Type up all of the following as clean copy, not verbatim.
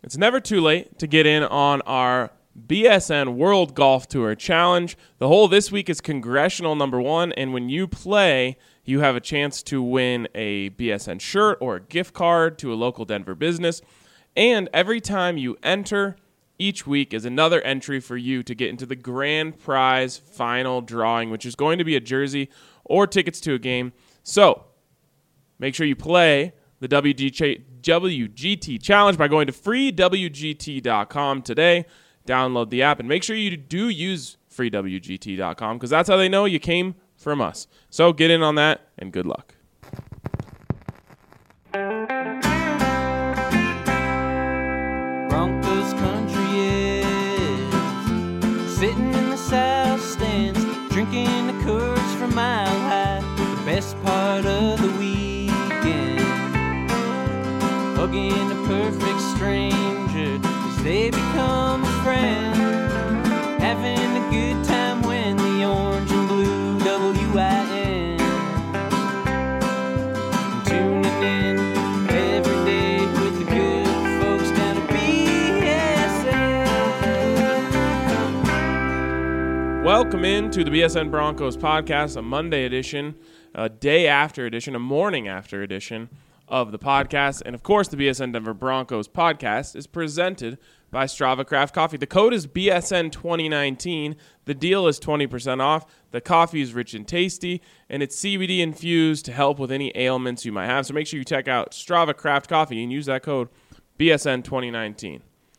It's never too late to get in on our BSN World Golf Tour Challenge. The hole this week is Congressional number 1, and when you play, you have a chance to win a BSN shirt or a gift card to a local Denver business. And every time you enter, each week is another entry for you to get into the grand prize final drawing, which is going to be a jersey or tickets to a game. So make sure you play the WGT Challenge by going to freewgt.com today. Download the app and make sure you do use freewgt.com because that's how they know you came from us. So get in on that and good luck. Broncos country is sitting in the south stands, drinking the Coors from Mile High. The best part of the weekend, hugging a perfect stranger as they become a friend, having a good time when the orange and blue WIN, tuning in every day with the good folks down at BSN. Welcome in to the BSN Broncos podcast, a Monday edition, a day after edition, a morning after edition of the podcast. And of course, the BSN Denver Broncos podcast is presented by Strava Craft Coffee. The code is BSN 2019. The deal is 20% off. The coffee is rich and tasty, and it's CBD infused to help with any ailments you might have. So make sure you check out Strava Craft Coffee and use that code BSN 2019.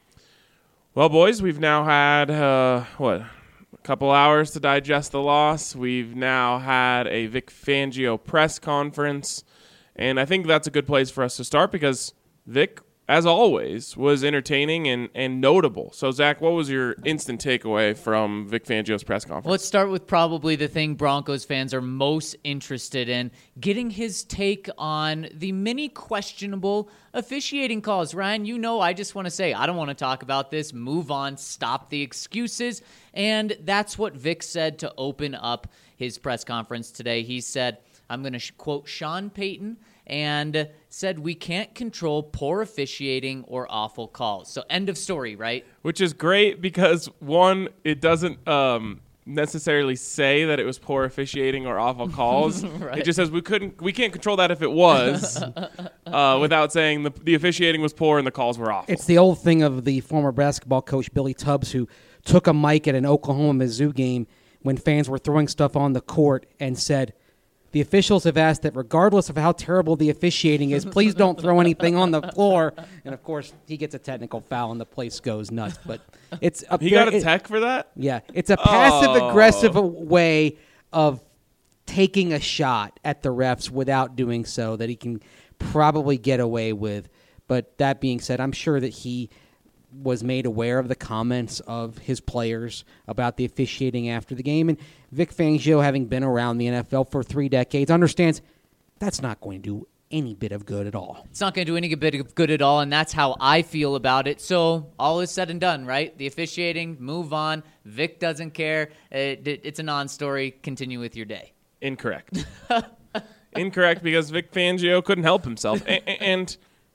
Well, boys, we've now had, a couple hours to digest the loss. We've now had a Vic Fangio press conference, and I think that's a good place for us to start because Vic, as always, was entertaining and notable. So, Zach, what was your instant takeaway from Vic Fangio's press conference? Let's start with probably the thing Broncos fans are most interested in, getting his take on the many questionable officiating calls. Ryan, you know I just want to say I don't want to talk about this. Move on. Stop the excuses. And that's what Vic said to open up his press conference today. He said, I'm going to quote Sean Payton, and said we can't control poor officiating or awful calls. So end of story, right? Which is great because, one, it doesn't necessarily say that it was poor officiating or awful calls. Right. It just says we can't control that if it was, without saying the officiating was poor and the calls were awful. It's the old thing of the former basketball coach Billy Tubbs, who took a mic at an Oklahoma-Mizzou game when fans were throwing stuff on the court and said, the officials have asked that regardless of how terrible the officiating is, please don't throw anything on the floor. And, of course, he gets a technical foul and the place goes nuts. But it's he got a tech for that? Yeah. It's a passive-aggressive way of taking a shot at the refs without doing so that he can probably get away with. But that being said, I'm sure that he was made aware of the comments of his players about the officiating after the game. And Vic Fangio, having been around the NFL for 3 decades, understands that's not going to do any bit of good at all. It's not going to do any bit of good at all, and that's how I feel about it. So all is said and done, right? The officiating, move on. Vic doesn't care. It's a non-story. Continue with your day. Incorrect. Incorrect, because Vic Fangio couldn't help himself. And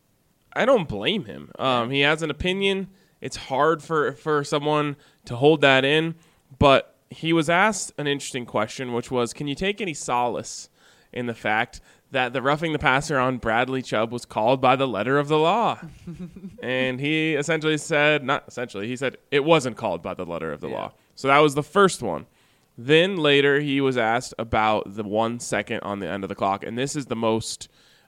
I don't blame him. He has an opinion. It's hard for someone to hold that in. But he was asked an interesting question, which was, can you take any solace in the fact that the roughing the passer on Bradley Chubb was called by the letter of the law? And he essentially said, he said it wasn't called by the letter of the law. So that was the first one. Then later he was asked about the 1 second on the end of the clock. And this is the most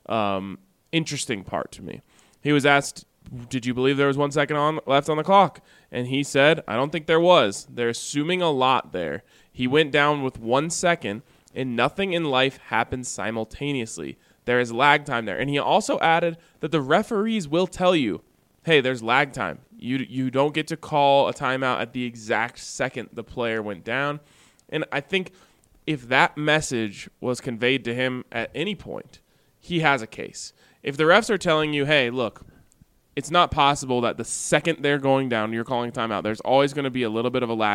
interesting part to me. He was asked, did you believe there was 1 second left on the clock? And he said, I don't think there was. They're assuming a lot there. He went down with 1 second, and nothing in life happens simultaneously. There is lag time there. And he also added that the referees will tell you, hey, there's lag time. You don't get to call a timeout at the exact second the player went down. And I think if that message was conveyed to him at any point, he has a case. If the refs are telling you, hey, look, it's not possible that the second they're going down, you're calling timeout. There's always going to be a little bit of a lag.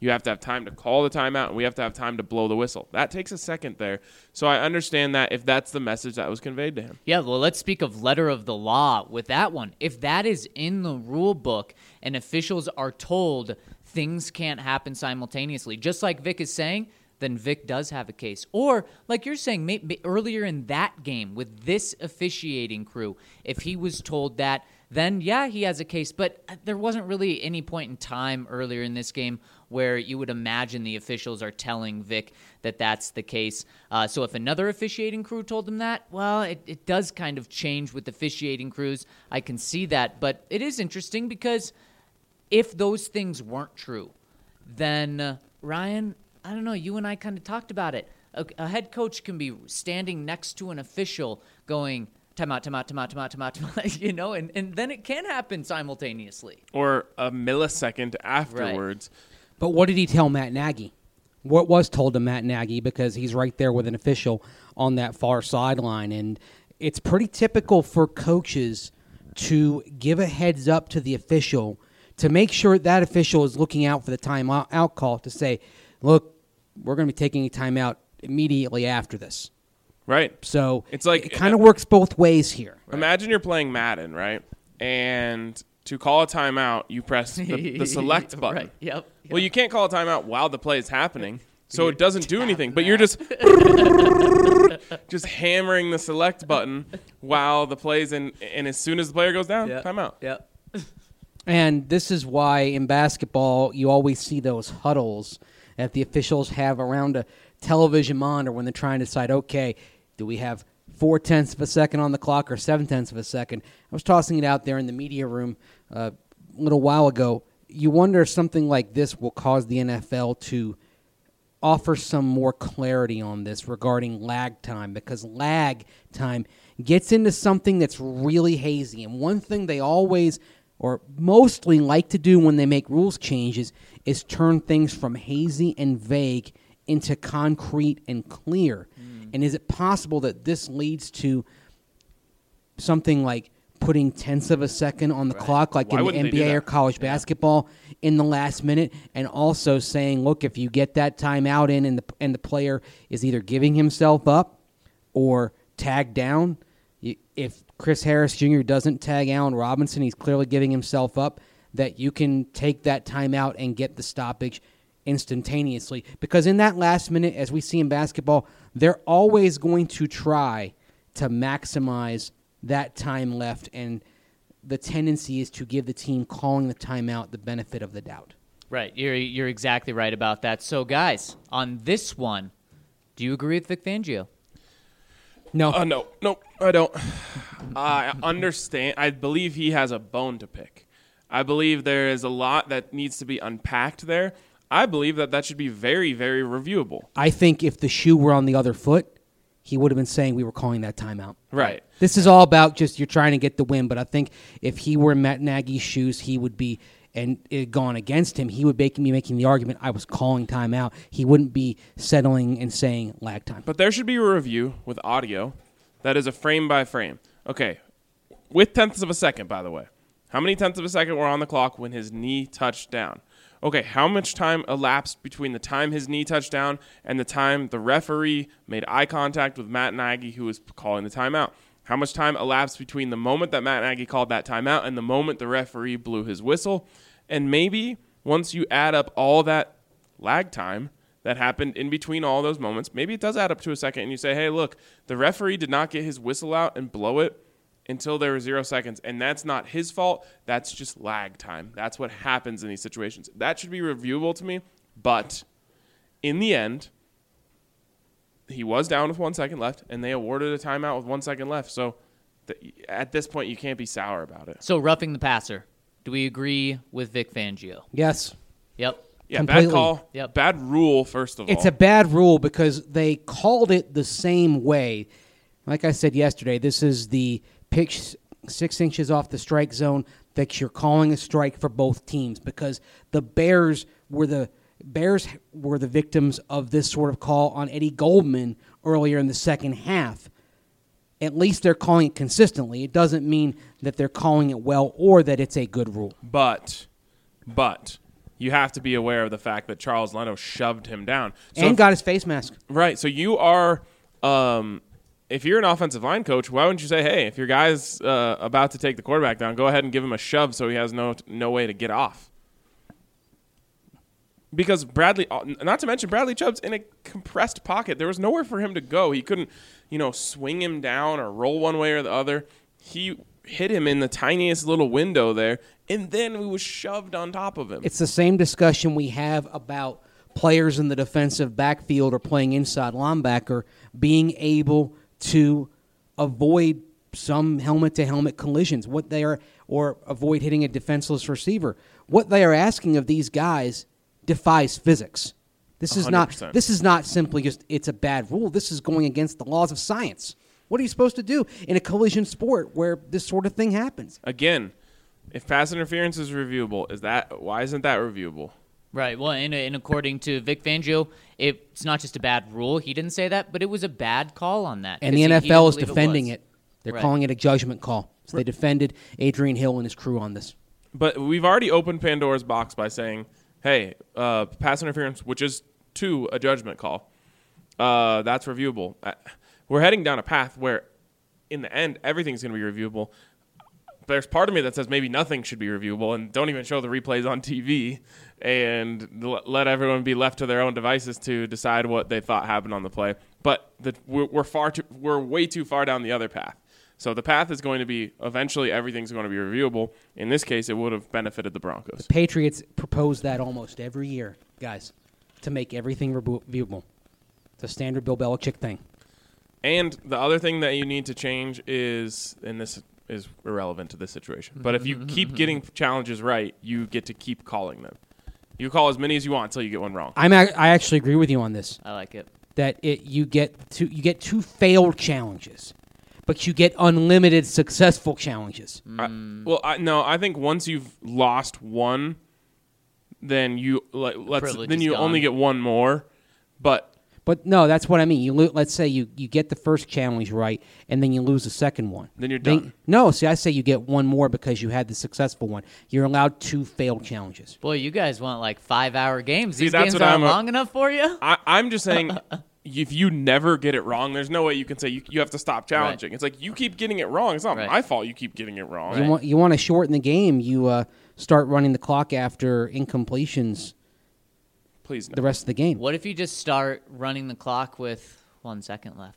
You have to have time to call the timeout, and we have to have time to blow the whistle. That takes a second there. So I understand that if that's the message that was conveyed to him. Yeah, well, let's speak of letter of the law with that one. If that is in the rule book and officials are told things can't happen simultaneously, just like Vic is saying, then Vic does have a case. Or, like you're saying, maybe earlier in that game with this officiating crew, if he was told that, then yeah, he has a case. But there wasn't really any point in time earlier in this game where you would imagine the officials are telling Vic that that's the case. So if another officiating crew told him that, well, it does kind of change with officiating crews. I can see that. But it is interesting because if those things weren't true, then Ryan, I don't know, you and I kind of talked about it. A head coach can be standing next to an official going, timeout, timeout, timeout, timeout, timeout, timeout, and then it can happen simultaneously. Or a millisecond afterwards. Right. But what did he tell Matt Nagy? What was told to Matt Nagy, because he's right there with an official on that far sideline. And it's pretty typical for coaches to give a heads up to the official to make sure that official is looking out for the timeout call to say, look, we're going to be taking a timeout immediately after this. Right. So it's like it kind of works both ways here. Imagine you're playing Madden, right? And to call a timeout, you press the select button. Right. Yep. Well, you can't call a timeout while the play is happening, so it doesn't do anything. But you're just hammering the select button while the play's in, and as soon as the player goes down, timeout. Yep. And this is why in basketball you always see those huddles that the officials have around a television monitor when they're trying to decide, okay, do we have 0.4 of a second on the clock or 0.7 of a second? I was tossing it out there in the media room a little while ago. You wonder if something like this will cause the NFL to offer some more clarity on this regarding lag time, because lag time gets into something that's really hazy. And one thing they always or mostly like to do when they make rules changes is turn things from hazy and vague into concrete and clear. And is it possible that this leads to something like putting tenths of a second on the clock, like Why in the wouldn't they do NBA or that? college basketball in the last minute, and also saying, look, if you get that timeout in and the player is either giving himself up or tagged down, if Chris Harris Jr. doesn't tag Allen Robinson, he's clearly giving himself up, that you can take that timeout and get the stoppage instantaneously. Because in that last minute, as we see in basketball, they're always going to try to maximize that time left, and the tendency is to give the team calling the timeout the benefit of the doubt. Right. You're exactly right about that. So, guys, on this one, do you agree with Vic Fangio? No. No, I don't. I understand. I believe he has a bone to pick. I believe there is a lot that needs to be unpacked there. I believe that should be very, very reviewable. I think if the shoe were on the other foot, he would have been saying we were calling that timeout. Right. This is all about just you're trying to get the win, but I think if he were in Matt Nagy's shoes, he would be, and it had gone against him, he would be making the argument I was calling timeout. He wouldn't be settling and saying lag time. But there should be a review with audio that is a frame by frame. Okay, with tenths of a second, by the way. How many tenths of a second were on the clock when his knee touched down? Okay, how much time elapsed between the time his knee touched down and the time the referee made eye contact with Matt Nagy, who was calling the timeout? How much time elapsed between the moment that Matt Nagy called that timeout and the moment the referee blew his whistle? And maybe once you add up all that lag time that happened in between all those moments, maybe it does add up to a second, and you say, hey, look, the referee did not get his whistle out and blow it until there were 0 seconds, and that's not his fault. That's just lag time. That's what happens in these situations. That should be reviewable to me, but in the end, he was down with 1 second left, and they awarded a timeout with 1 second left. So at this point, you can't be sour about it. So, roughing the passer. Do we agree with Vic Fangio? Yes. Yep. Yeah, Completely. bad call. Yep. Bad rule, first of all. It's a bad rule because they called it the same way. Like I said yesterday, this is the pitch 6 inches off the strike zone that you're calling a strike for both teams, because the Bears were the victims of this sort of call on Eddie Goldman earlier in the second half. At least they're calling it consistently. It doesn't mean that they're calling it well or that it's a good rule. But you have to be aware of the fact that Charles Leno shoved him down. So And got his face mask. right. So you are, if you're an offensive line coach, why wouldn't you say, hey, if your guy's about to take the quarterback down, go ahead and give him a shove so he has no way to get off. Because Bradley, not to mention Bradley Chubb's in a compressed pocket. There was nowhere for him to go. He couldn't, swing him down or roll one way or the other. He hit him in the tiniest little window there, and then he was shoved on top of him. It's the same discussion we have about players in the defensive backfield or playing inside linebacker being able to avoid some helmet-to-helmet collisions, or avoid hitting a defenseless receiver. What they are asking of these guys defies physics. This is 100%. This is not simply just it's a bad rule. This is going against the laws of science. What are you supposed to do in a collision sport where this sort of thing happens? Again, if pass interference is reviewable, why isn't that reviewable? Right. Well, and according to Vic Fangio, it's not just a bad rule. He didn't say that, but it was a bad call on that. And the 'cause he NFL didn't is believe defending was. it. They're Right. calling it a judgment call. So they defended Adrian Hill and his crew on this. But we've already opened Pandora's box by saying, hey, pass interference, which is to a judgment call, that's reviewable. We're heading down a path where, in the end, everything's going to be reviewable. There's part of me that says maybe nothing should be reviewable and don't even show the replays on TV and let everyone be left to their own devices to decide what they thought happened on the play. But we're way too far down the other path. So the path is going to be eventually everything's going to be reviewable. In this case, it would have benefited the Broncos. Patriots propose that almost every year, guys, to make everything reviewable. It's a standard Bill Belichick thing. And the other thing that you need to change is, and this is irrelevant to this situation, but if you keep getting challenges right, you get to keep calling them. You call as many as you want until you get one wrong. I actually agree with you on this. I like it. That you get two failed challenges, but you get unlimited successful challenges. I think once you've lost one, then you Privilege then is you gone. only get one more. But no, that's what I mean. Let's say you get the first challenge right, and then you lose the second one. Then you're done. No, see, I say you get one more because you had the successful one. You're allowed two failed challenges. Boy, you guys want like 5-hour games. See, These that's games what aren't I'm- long enough for you? I'm just saying, if you never get it wrong, there's no way you can say you have to stop challenging. Right. It's like you keep getting it wrong. It's not Right. my fault you keep getting it wrong. You want to shorten the game. You start running the clock after incompletions Please no. the rest of the game. What if you just start running the clock with 1 second left?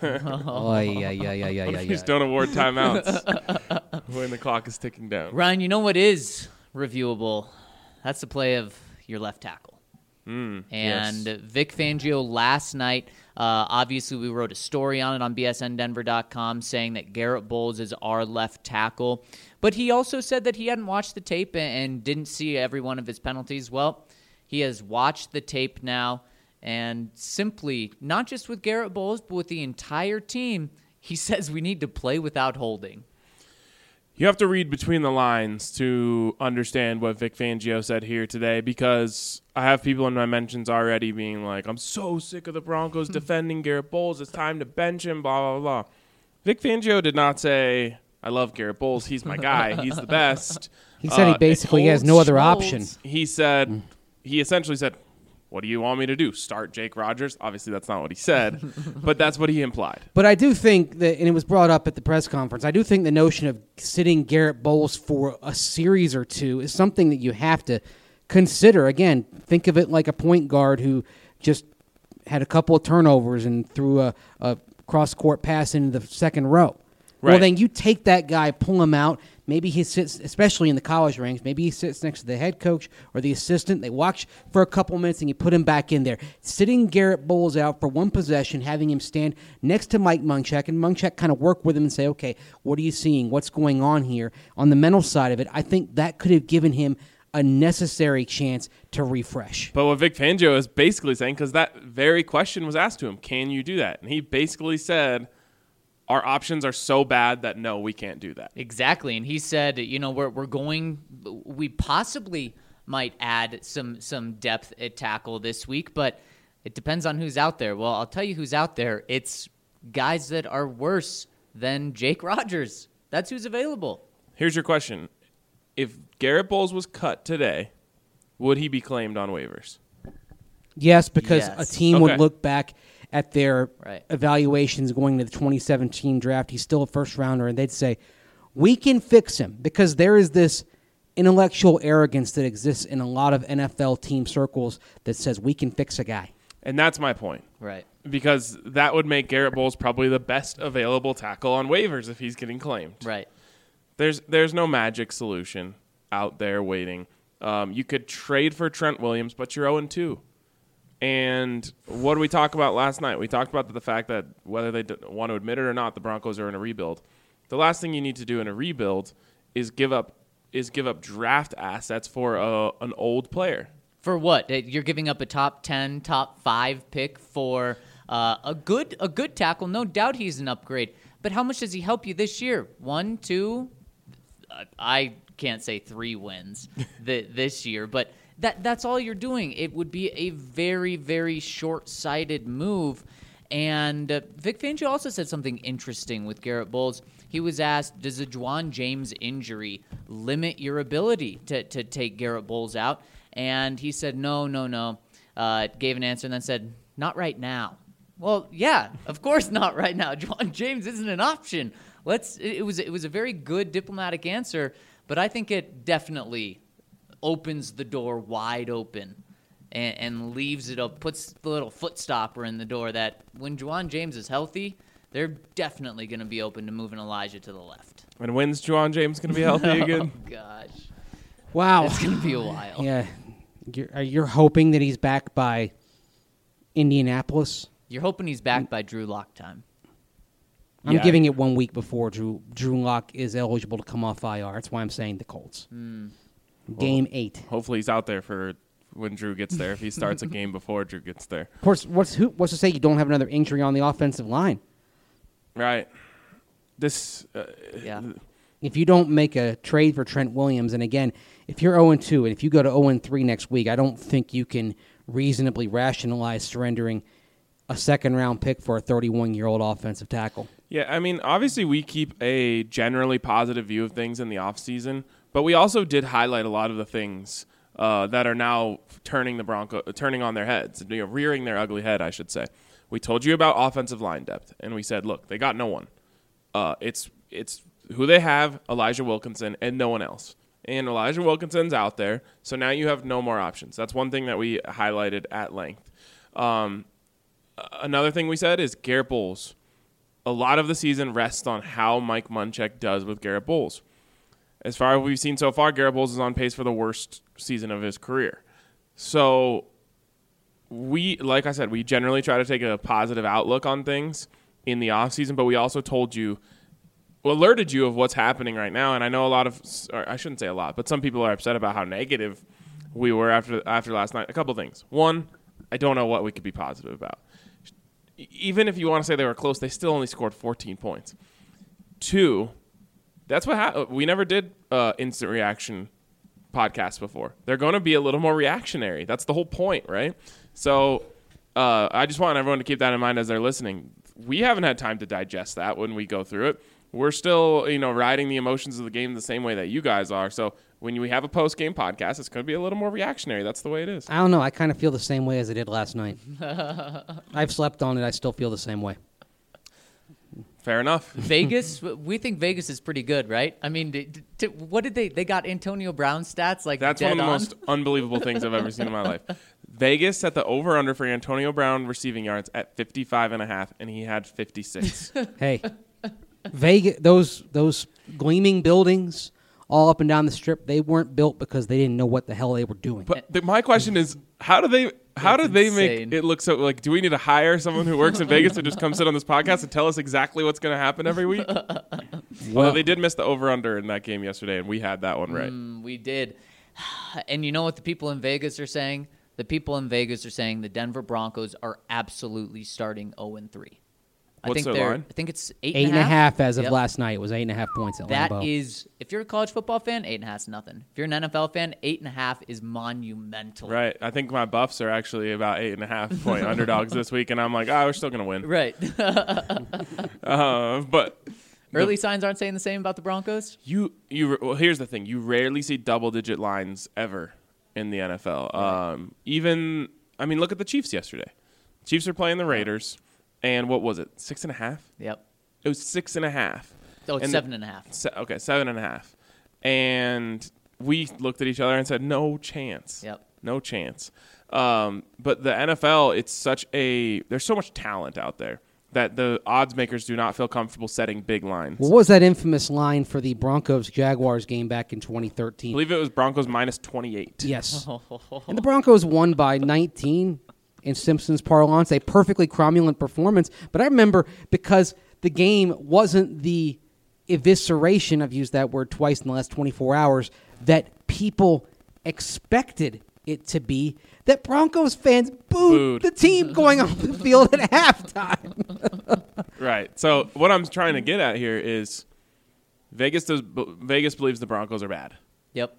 Oh, yeah. Please don't award timeouts when the clock is ticking down. Ryan, you know what is reviewable? That's the play of your left tackle. And yes. Vic Fangio last night, obviously we wrote a story on it on bsndenver.com saying that Garrett Bowles is our left tackle. But he also said that he hadn't watched the tape and didn't see every one of his penalties. Well, he has watched the tape now, and simply, not just with Garrett Bowles, but with the entire team, he says we need to play without holding. You have to read between the lines to understand what Vic Fangio said here today, because I have people in my mentions already being like, I'm so sick of the Broncos defending Garrett Bowles. It's time to bench him, blah, blah, blah. Vic Fangio did not say, I love Garrett Bowles. He's my guy. He's the best. He said he basically has no other option. He said, he essentially said, what do you want me to do? Start Jake Rogers? Obviously, that's not what he said, but that's what he implied. But I do think that, and it was brought up at the press conference, I do think the notion of sitting Garrett Bowles for a series or two is something that you have to consider. Again, think of it like a point guard who just had a couple of turnovers and threw a cross-court pass into the second row. Right. Well, then you take that guy, pull him out. Maybe he sits, especially in the college ranks, maybe he sits next to the head coach or the assistant. They watch for a couple minutes and you put him back in there. Sitting Garrett Bowles out for one possession, having him stand next to Mike Munchak, and Munchak kind of work with him and say, okay, what are you seeing? What's going on here? On the mental side of it, I think that could have given him a necessary chance to refresh. But what Vic Fangio is basically saying, because that very question was asked to him, can you do that? And he basically said, our options are so bad that no, we can't do that. Exactly, and he said, we possibly might add some depth at tackle this week, but it depends on who's out there. Well, I'll tell you who's out there. It's guys that are worse than Jake Rogers. That's who's available. Here's your question. If Garrett Bowles was cut today, would he be claimed on waivers? Yes, because Yes. a team Okay. would look back at their Right. evaluations going to the 2017 draft. He's still a first rounder, and they'd say, we can fix him, because there is this intellectual arrogance that exists in a lot of NFL team circles that says we can fix a guy. And that's my point. Right. Because that would make Garrett Bowles probably the best available tackle on waivers if he's getting claimed. Right. There's no magic solution out there waiting. You could trade for Trent Williams, but you're 0-2. And what did we talk about last night? We talked about the fact that whether they want to admit it or not, the Broncos are in a rebuild. The last thing you need to do in a rebuild is give up draft assets for an old player. For what? You're giving up a top 10, top 5 pick for a good tackle. No doubt he's an upgrade. But how much does he help you this year? 1, 2? I can't say 3 wins this year, but that's all you're doing. It would be a very, very short-sighted move. And Vic Fangio also said something interesting with Garrett Bowles. He was asked, does a Juwan James injury limit your ability to take Garrett Bowles out? And he said, no. Gave an answer and then said, not right now. Well, yeah, of course not right now. Juwan James isn't an option. It was a very good diplomatic answer, but I think it definitely opens the door wide open and leaves it up, puts the little foot stopper in the door that when Juwan James is healthy, they're definitely going to be open to moving Elijah to the left. And when's Juwan James going to be healthy again? Oh, gosh. Wow. It's going to be a while. Yeah. You're hoping that he's back by Indianapolis? You're hoping he's back by Drew Lock time. I'm Yeah. giving it 1 week before Drew Lock is eligible to come off IR. That's why I'm saying the Colts. Game 8. Hopefully he's out there for when Drew gets there. If he starts a game before Drew gets there. Of course, what's to say you don't have another injury on the offensive line? Right. This. Yeah. If you don't make a trade for Trent Williams, and again, if you're 0-2 and if you go to 0-3 next week, I don't think you can reasonably rationalize surrendering a second-round pick for a 31-year-old offensive tackle. Yeah, I mean, obviously we keep a generally positive view of things in the offseason, but we also did highlight a lot of the things that are now turning on their heads, rearing their ugly head, I should say. We told you about offensive line depth, and we said, look, they got no one. It's who they have, Elijah Wilkinson, and no one else. And Elijah Wilkinson's out there, so now you have no more options. That's one thing that we highlighted at length. Another thing we said is Garrett Bowles. A lot of the season rests on how Mike Munchak does with Garrett Bowles. As far as we've seen so far, Garrett Bowles is on pace for the worst season of his career. So like I said, we generally try to take a positive outlook on things in the offseason, but we also alerted you of what's happening right now. And I know I shouldn't say a lot, but some people are upset about how negative we were after last night. A couple things. One, I don't know what we could be positive about. Even if you want to say they were close, they still only scored 14 points. Two, that's what happened. We never did instant reaction podcasts before. They're going to be a little more reactionary. That's the whole point, right? So I just want everyone to keep that in mind as they're listening. We haven't had time to digest that when we go through it. We're still, riding the emotions of the game the same way that you guys are. So when we have a post-game podcast, it's going to be a little more reactionary. That's the way it is. I don't know. I kind of feel the same way as I did last night. I've slept on it. I still feel the same way. Fair enough. Vegas, we think Vegas is pretty good, right? I mean, what did they got Antonio Brown stats like That's dead one of the on? most unbelievable things I've ever seen in my life. Vegas set the over-under for Antonio Brown receiving yards at 55.5, and he had 56. Hey, Vegas, those gleaming buildings all up and down the strip, they weren't built because they didn't know what the hell they were doing. But my question is, how do they make insane. it look so, like, do we need to hire someone who works in Vegas to just come sit on this podcast and tell us exactly what's going to happen every week? Well, they did miss the over-under in that game yesterday, and we had that one right. We did. And you know what the people in Vegas are saying? The people in Vegas are saying the Denver Broncos are absolutely starting 0-3. What's their line? I think it's 8.5 as of Yep. last night. It was 8.5 points at That Lambeau. is, if you're a college football fan, 8.5 is nothing. If you're an NFL fan, 8.5 is monumental. Right. I think my Buffs are actually about 8.5 point underdogs this week, and I'm like, we're still going to win. Right. But Early signs aren't saying the same about the Broncos. well, here's the thing. You rarely see double-digit lines ever in the NFL. Even, I mean, look at the Chiefs yesterday. Chiefs are playing the Raiders, and what was it, 6.5? Yep. It was 6.5. Oh, it's And 7.5. Okay, 7.5. And we looked at each other and said, no chance. Yep. No chance. But the NFL, there's so much talent out there that the odds makers do not feel comfortable setting big lines. What was that infamous line for the Broncos-Jaguars game back in 2013? I believe it was Broncos minus 28. Yes. And the Broncos won by 19 in Simpsons parlance, a perfectly cromulent performance. But I remember because the game wasn't the evisceration, I've used that word twice in the last 24 hours, that people expected it to be, that Broncos fans booed the team going off the field at halftime. Right. So what I'm trying to get at here is Vegas believes the Broncos are bad. Yep.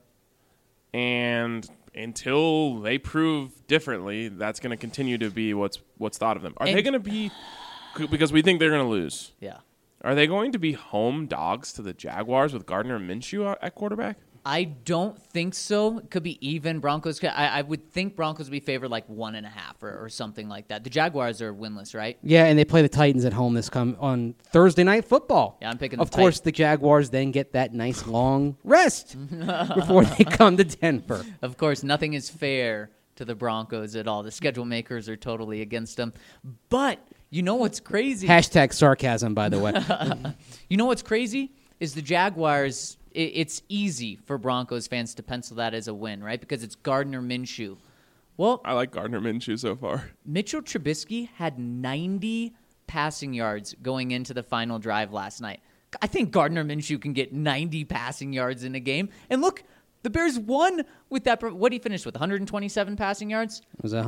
And until they prove differently, that's going to continue to be what's thought of them. Are they going to be, because we think they're going to lose, Yeah. are they going to be home dogs to the Jaguars with Gardner Minshew at quarterback? I don't think so. It could be even. Broncos. I would think Broncos would be favored like 1.5 or something like that. The Jaguars are winless, right? Yeah, and they play the Titans at home on Thursday Night Football. Yeah, I'm picking Of course, the Jaguars then get that nice long rest before they come to Denver. Of course, nothing is fair to the Broncos at all. The schedule makers are totally against them. But you know what's crazy? Hashtag sarcasm, by the way. You know what's crazy is the Jaguars. It's easy for Broncos fans to pencil that as a win, right? Because it's Gardner Minshew. Well, I like Gardner Minshew so far. Mitchell Trubisky had 90 passing yards going into the final drive last night. I think Gardner Minshew can get 90 passing yards in a game. And look, the Bears won with that. What did he finish with? 127 passing yards? It was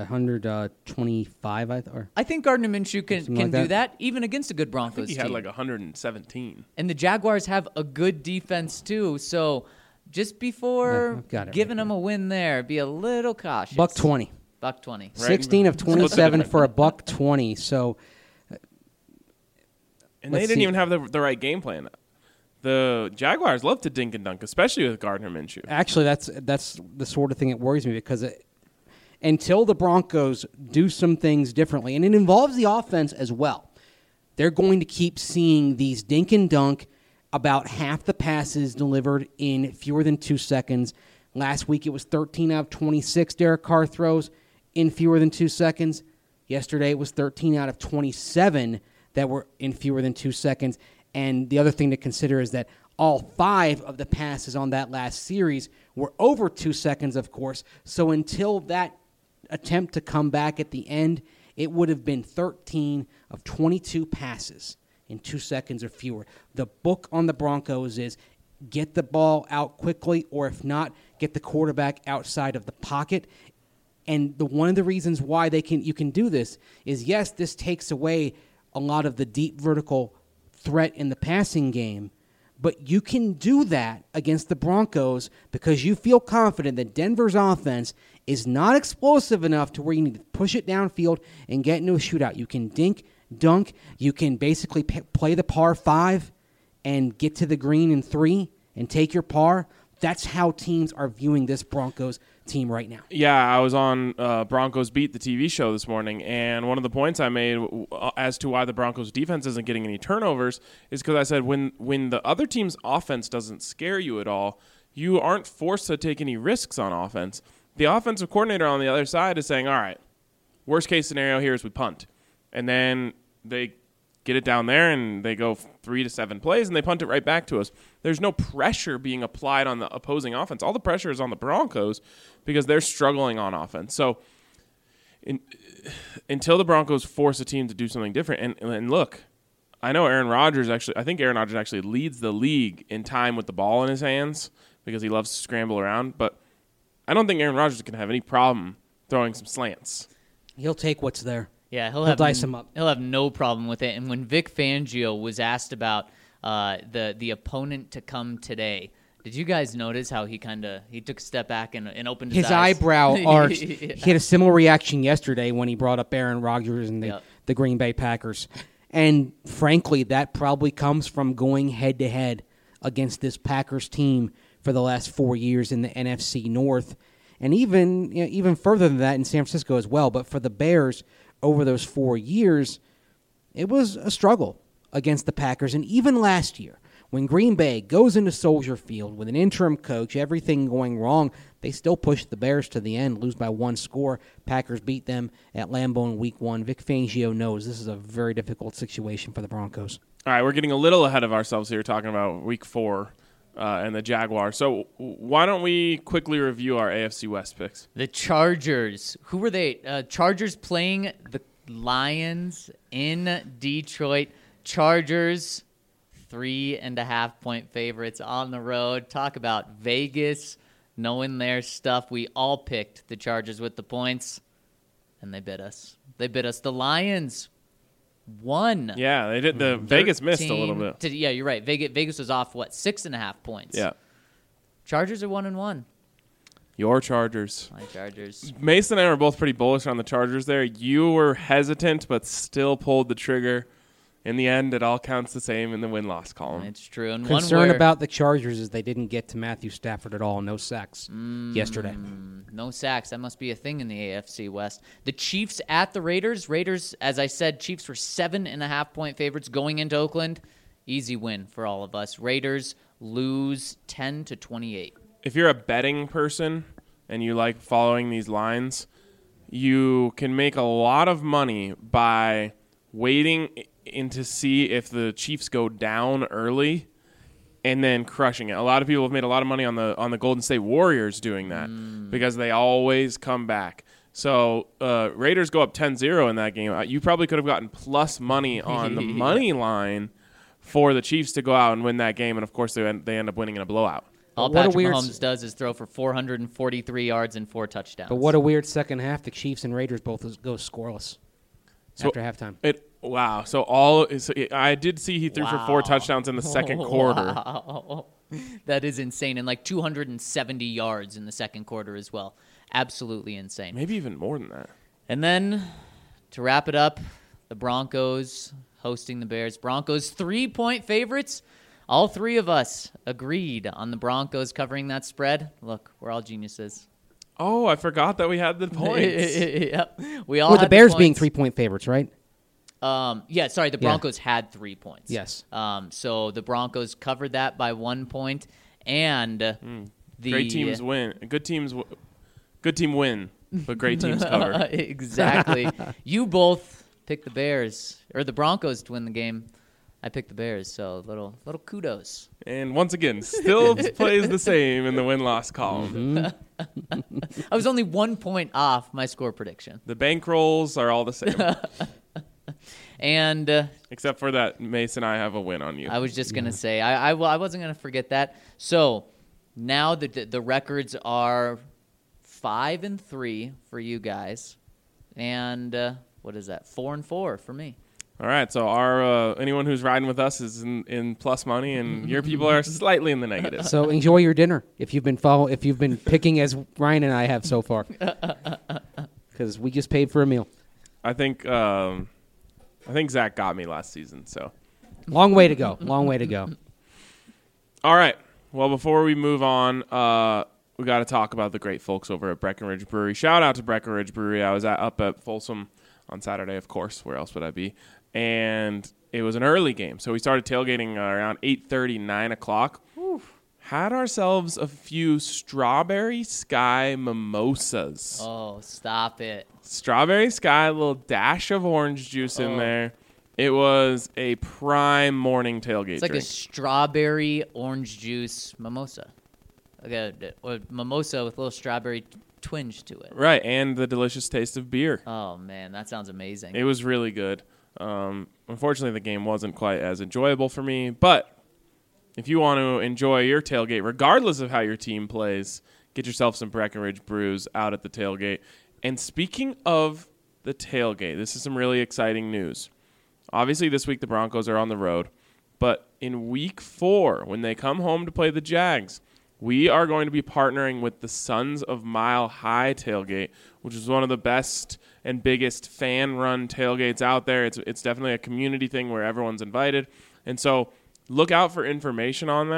125, I think Gardner Minshew can like do that. that even against a good Broncos He team. had like 117. And the Jaguars have a good defense too. So just before I've got it giving right them a win there, be a little cautious. $1.20. $1.20. Right. 16 of 27 for $1.20. So And they Let's didn't see. even have the right game plan. The Jaguars love to dink and dunk, especially with Gardner Minshew. actually, that's the sort of thing that worries me because until the Broncos do some things differently, and it involves the offense as well, they're going to keep seeing these dink and dunk, about half the passes delivered in fewer than 2 seconds. Last week it was 13 out of 26 Derek Carr throws in fewer than 2 seconds. Yesterday it was 13 out of 27 that were in fewer than 2 seconds. And the other thing to consider is that all 5 of the passes on that last series were over 2 seconds, of course. So until that attempt to come back at the end, it would have been 13 of 22 passes in 2 seconds or fewer. The book on the Broncos is get the ball out quickly, or if not, get the quarterback outside of the pocket. And one of the reasons why you can do this is, yes, this takes away a lot of the deep vertical threat in the passing game, but you can do that against the Broncos because you feel confident that Denver's offense is not explosive enough to where you need to push it downfield and get into a shootout. You can dink, dunk, you can basically play the par 5 and get to the green in 3 and take your par. That's how teams are viewing this Broncos team right now. Yeah, I was on Broncos Beat, the TV show this morning, and one of the points I made as to why the Broncos defense isn't getting any turnovers is because I said when the other team's offense doesn't scare you at all, you aren't forced to take any risks on offense. The offensive coordinator on the other side is saying, all right, worst case scenario here is we punt. And then they get it down there and they go 3 to 7 plays and they punt it right back to us. There's no pressure being applied on the opposing offense. All the pressure is on the Broncos because they're struggling on offense. So until the Broncos force a team to do something different, and look, I think Aaron Rodgers actually leads the league in time with the ball in his hands because he loves to scramble around, but I don't think Aaron Rodgers can have any problem throwing some slants. He'll take what's there. Yeah, He'll dice him up. He'll have no problem with it. And when Vic Fangio was asked about the opponent to come today, did you guys notice how he took a step back and opened his His eyes? eyebrow arched. Yeah. He had a similar reaction yesterday when he brought up Aaron Rodgers and the Green Bay Packers. And frankly, that probably comes from going head-to-head against this Packers team for the last 4 years in the NFC North. and even further than that in San Francisco as well. But for the Bears over those 4 years, it was a struggle against the Packers. And even last year, when Green Bay goes into Soldier Field with an interim coach, everything going wrong, they still push the Bears to the end, lose by 1 score. Packers beat them at Lambeau in Week 1. Vic Fangio knows this is a very difficult situation for the Broncos. All right, we're getting a little ahead of ourselves here talking about Week 4 and the Jaguars. So why don't we quickly review our AFC West picks? The Chargers. Who were they? Chargers playing the Lions in Detroit. Chargers, 3.5-point favorites on the road. Talk about Vegas knowing their stuff. We all picked the Chargers with the points, and they bit us. The Lions won. Yeah, they did. The Vegas missed a little bit. Yeah, you're right. Vegas was off, 6.5 points. Yeah. Chargers are 1-1. Your Chargers. My Chargers. Mason and I were both pretty bullish on the Chargers there. You were hesitant, but still pulled the trigger. In the end, it all counts the same in the win-loss column. It's true. And Concern about the Chargers is they didn't get to Matthew Stafford at all. No sacks yesterday. No sacks. That must be a thing in the AFC West. The Chiefs at the Raiders. Raiders, as I said, Chiefs were 7.5-point favorites going into Oakland. Easy win for all of us. Raiders lose 10-28. If you're a betting person and you like following these lines, you can make a lot of money by waiting in to see if the Chiefs go down early and then crushing it. A lot of people have made a lot of money on the Golden State Warriors doing that because they always come back. So Raiders go up 10-0 in that game. You probably could have gotten plus money on the money line for the Chiefs to go out and win that game, and of course they end up winning in a blowout. All Patrick Mahomes does is throw for 443 yards and 4 touchdowns. But what a weird second half. The Chiefs and Raiders both go scoreless after halftime. Wow. So I did see he threw for 4 touchdowns in the second quarter. Wow. That is insane. And like 270 yards in the second quarter as well. Absolutely insane. Maybe even more than that. And then to wrap it up, the Broncos hosting the Bears. Broncos 3-point favorites. All 3 of us agreed on the Broncos covering that spread. Look, we're all geniuses. Oh, I forgot that we had the points. Yep. We all With had the Bears points. being 3-point favorites, right? The Broncos had 3 points. Yes. So the Broncos covered that by 1 point, and the great teams win. Good team win, but great teams cover. Exactly. You both picked the Bears or the Broncos to win the game. I picked the Bears, so little kudos. And once again, still plays the same in the win-loss column. I was only 1 point off my score prediction. The bankrolls are all the same. And except for that, Mason and I have a win on you. I was just going to say, I wasn't going to forget that. So now the records are 5-3 for you guys. And what is that? 4-4 for me. All right, so our anyone who's riding with us is in plus money, and your people are slightly in the negative. So enjoy your dinner if you've been picking as Ryan and I have so far, because we just paid for a meal. I think Zach got me last season. So long way to go. All right. Well, before we move on, we got to talk about the great folks over at Breckenridge Brewery. Shout out to Breckenridge Brewery. I was up at Folsom on Saturday, of course. Where else would I be? And it was an early game, so we started tailgating around 8:30, 9 o'clock. Had ourselves a few Strawberry Sky mimosas. Oh, stop it. Strawberry Sky, a little dash of orange juice in there. It was a prime morning tailgate It's like drink. a strawberry orange juice mimosa. Or mimosa with a little strawberry twinge to it. Right, and the delicious taste of beer. Oh, man, that sounds amazing. It was really good. Unfortunately, the game wasn't quite as enjoyable for me, but if you want to enjoy your tailgate, regardless of how your team plays, get yourself some Breckenridge brews out at the tailgate. And speaking of the tailgate, this is some really exciting news. Obviously, this week the Broncos are on the road, but in week 4, when they come home to play the Jags, we are going to be partnering with the Sons of Mile High tailgate, which is one of the best and biggest fan-run tailgates out there. It's definitely a community thing where everyone's invited. And so look out for information on that.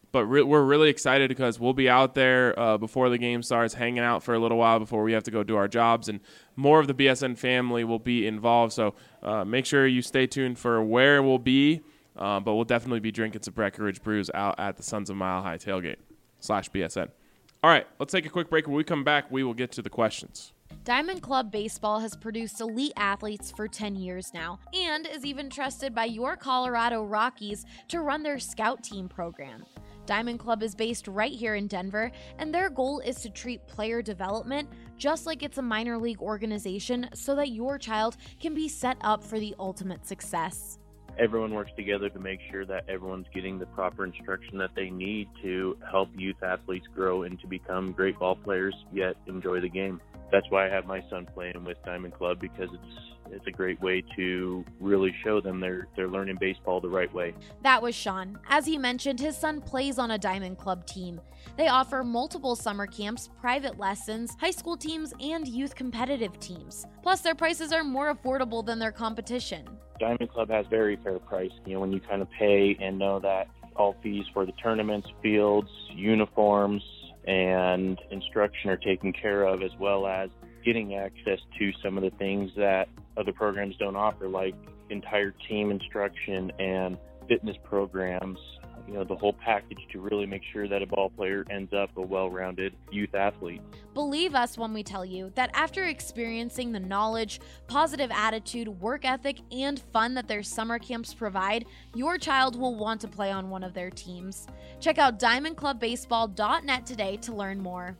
But we're really excited because we'll be out there before the game starts, hanging out for a little while before we have to go do our jobs, and more of the BSN family will be involved. So make sure you stay tuned for where we'll be, but we'll definitely be drinking some Breckenridge brews out at the Sons of Mile High tailgate /BSN. All right, let's take a quick break. When we come back, we will get to the questions. Diamond Club Baseball has produced elite athletes for 10 years now and is even trusted by your Colorado Rockies to run their scout team program. Diamond Club is based right here in Denver, and their goal is to treat player development just like it's a minor league organization so that your child can be set up for the ultimate success. Everyone works together to make sure that everyone's getting the proper instruction that they need to help youth athletes grow and to become great ball players, yet enjoy the game. That's why I have my son playing with Diamond Club, because it's a great way to really show them they're learning baseball the right way. That was Sean. As he mentioned, his son plays on a Diamond Club team. They offer multiple summer camps, private lessons, high school teams, and youth competitive teams. Plus, their prices are more affordable than their competition. Diamond Club has very fair price. When you kind of pay and know that all fees for the tournaments, fields, uniforms, and instruction are taken care of, as well as getting access to some of the things that other programs don't offer, like entire team instruction and fitness programs, the whole package to really make sure that a ball player ends up a well-rounded youth athlete. Believe us when we tell you that after experiencing the knowledge, positive attitude, work ethic, and fun that their summer camps provide, your child will want to play on one of their teams. Check out diamondclubbaseball.net today to learn more.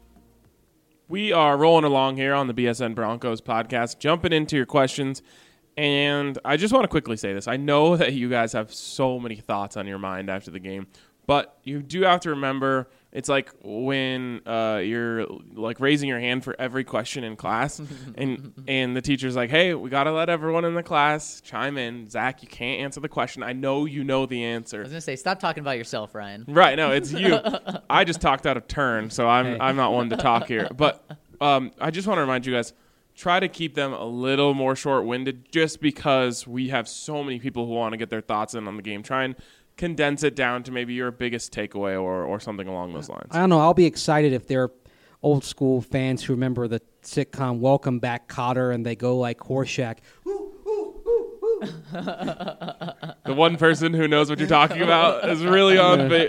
We are rolling along here on the BSN Broncos podcast, jumping into your questions. And I just want to quickly say this. I know that you guys have so many thoughts on your mind after the game, but you do have to remember it's like when you're like raising your hand for every question in class and the teacher's like, hey, we got to let everyone in the class chime in. Zach, you can't answer the question. I know you know the answer. I was going to say, stop talking about yourself, Ryan. Right. No, it's you. I just talked out of turn, so I'm not one to talk here. But I just want to remind you guys, try to keep them a little more short-winded just because we have so many people who want to get their thoughts in on the game. Try and condense it down to maybe your biggest takeaway or something along those lines. I don't know. I'll be excited if they're old school fans who remember the sitcom Welcome Back, Kotter, and they go like Horseshack. The one person who knows what you're talking about is really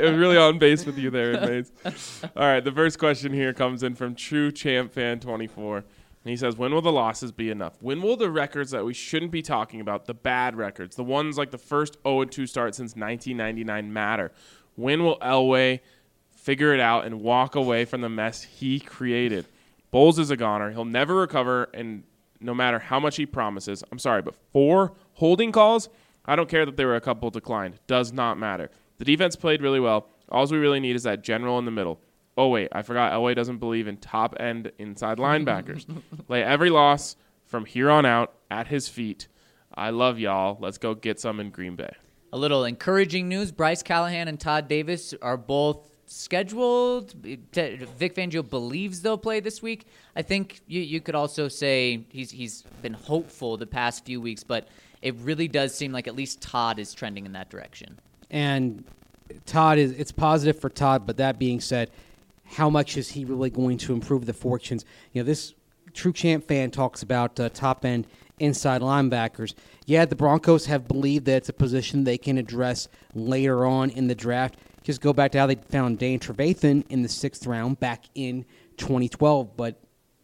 on base with you there, Maze. All right, the first question here comes in from True Champ Fan 24. And he says, when will the losses be enough? When will the records that we shouldn't be talking about, the bad records, the ones like the first 0-2 start since 1999 matter? When will Elway figure it out and walk away from the mess he created? Bowles is a goner. He'll never recover, and no matter how much he promises. I'm sorry, but 4 holding calls? I don't care that there were a couple declined. Does not matter. The defense played really well. All we really need is that general in the middle. Oh, wait, I forgot Elway doesn't believe in top-end inside linebackers. Lay every loss from here on out at his feet. I love y'all. Let's go get some in Green Bay. A little encouraging news. Bryce Callahan and Todd Davis are both scheduled. Vic Fangio believes they'll play this week. I think you could also say he's been hopeful the past few weeks, but it really does seem like at least Todd is trending in that direction. And it's positive for Todd, but that being said, how much is he really going to improve the fortunes? This True Champ fan talks about top-end inside linebackers. Yeah, the Broncos have believed that it's a position they can address later on in the draft. Just go back to how they found Dane Trevathan in the 6th round back in 2012. But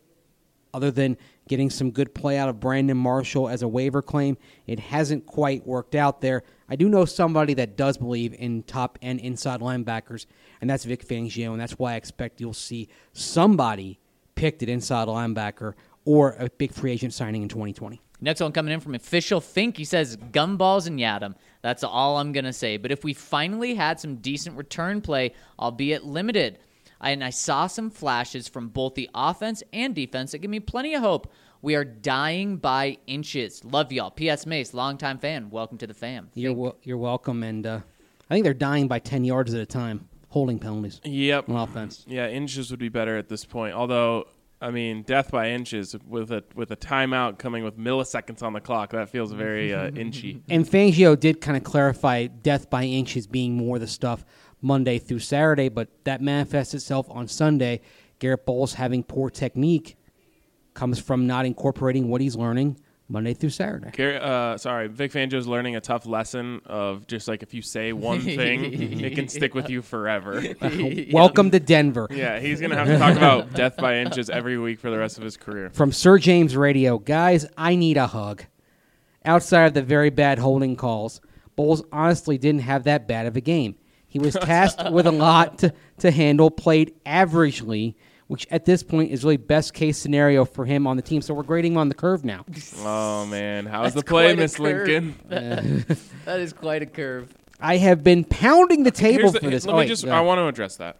other than getting some good play out of Brandon Marshall as a waiver claim, it hasn't quite worked out there. I do know somebody that does believe in top-end inside linebackers, and that's Vic Fangio, and that's why I expect you'll see somebody picked at inside linebacker or a big free agent signing in 2020. Next one coming in from Official Fink. He says, gumballs and Yadam. That's all I'm going to say. But if we finally had some decent return play, albeit limited, I saw some flashes from both the offense and defense that give me plenty of hope. We are dying by inches. Love y'all. P.S. Mace, longtime fan. Welcome to the fam. You're welcome. And I think they're dying by 10 yards at a time. Holding penalties. Yep. On offense. Yeah, inches would be better at this point. Although, I mean, death by inches with a timeout coming with milliseconds on the clock, that feels very inchy. And Fangio did kind of clarify death by inches being more the stuff Monday through Saturday, but that manifests itself on Sunday. Garrett Bowles having poor technique comes from not incorporating what he's learning Monday through Saturday. Vic Fangio's learning a tough lesson of just like if you say one thing, it can stick with you forever. Welcome to Denver. Yeah, he's going to have to talk about death by inches every week for the rest of his career. From Sir James Radio, guys, I need a hug. Outside of the very bad holding calls, Bowles honestly didn't have that bad of a game. He was tasked with a lot to handle, played averagely, which at this point is really best case scenario for him on the team. So we're grading him on the curve now. Oh, man. How's the play, Miss Lincoln? That is quite a curve. I have been pounding the table for this. I want to address that.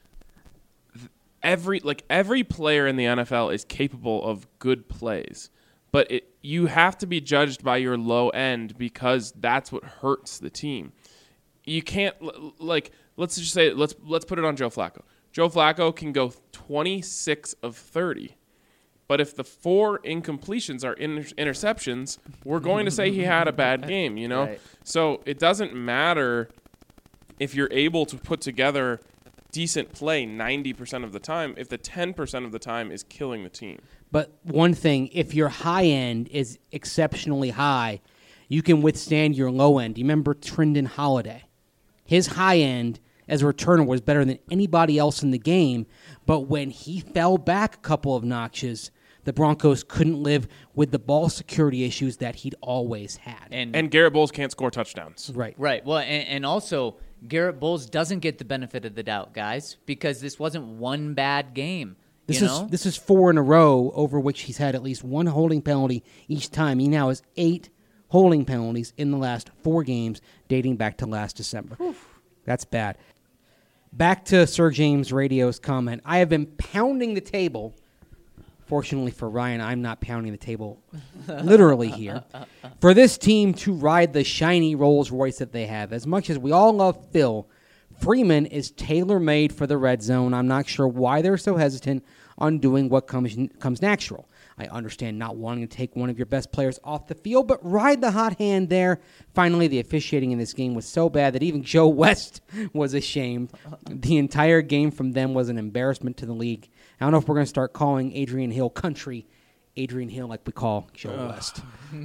Every player in the NFL is capable of good plays, but you have to be judged by your low end because that's what hurts the team. You can't let's just say let's put it on Joe Flacco. Joe Flacco can go 26 of 30, but if the 4 incompletions are interceptions, we're going to say he had a bad game. You know, Right. So it doesn't matter if you're able to put together decent play 90% of the time if the 10% of the time is killing the team. But one thing, if your high end is exceptionally high, you can withstand your low end. You remember Trendon Holiday? His high end as a returner was better than anybody else in the game, but when he fell back a couple of notches, the Broncos couldn't live with the ball security issues that he'd always had. And Garrett Bowles can't score touchdowns. Right. Right. Well, and also Garrett Bowles doesn't get the benefit of the doubt, guys, because this wasn't one bad game. This you know? is 4 in a row over which he's had at least one holding penalty each time. He now has 8 holding penalties in the last 4 games dating back to last December. Oof. That's bad. Back to Sir James Radio's comment. I have been pounding the table. Fortunately for Ryan, I'm not pounding the table literally here. For this team to ride the shiny Rolls Royce that they have. As much as we all love Phil, Freeman is tailor-made for the red zone. I'm not sure why they're so hesitant on doing what comes natural. I understand not wanting to take one of your best players off the field, but ride the hot hand there. Finally, the officiating in this game was so bad that even Joe West was ashamed. The entire game from them was an embarrassment to the league. I don't know if we're going to start calling Adrian Hill country Adrian Hill like we call Joe West.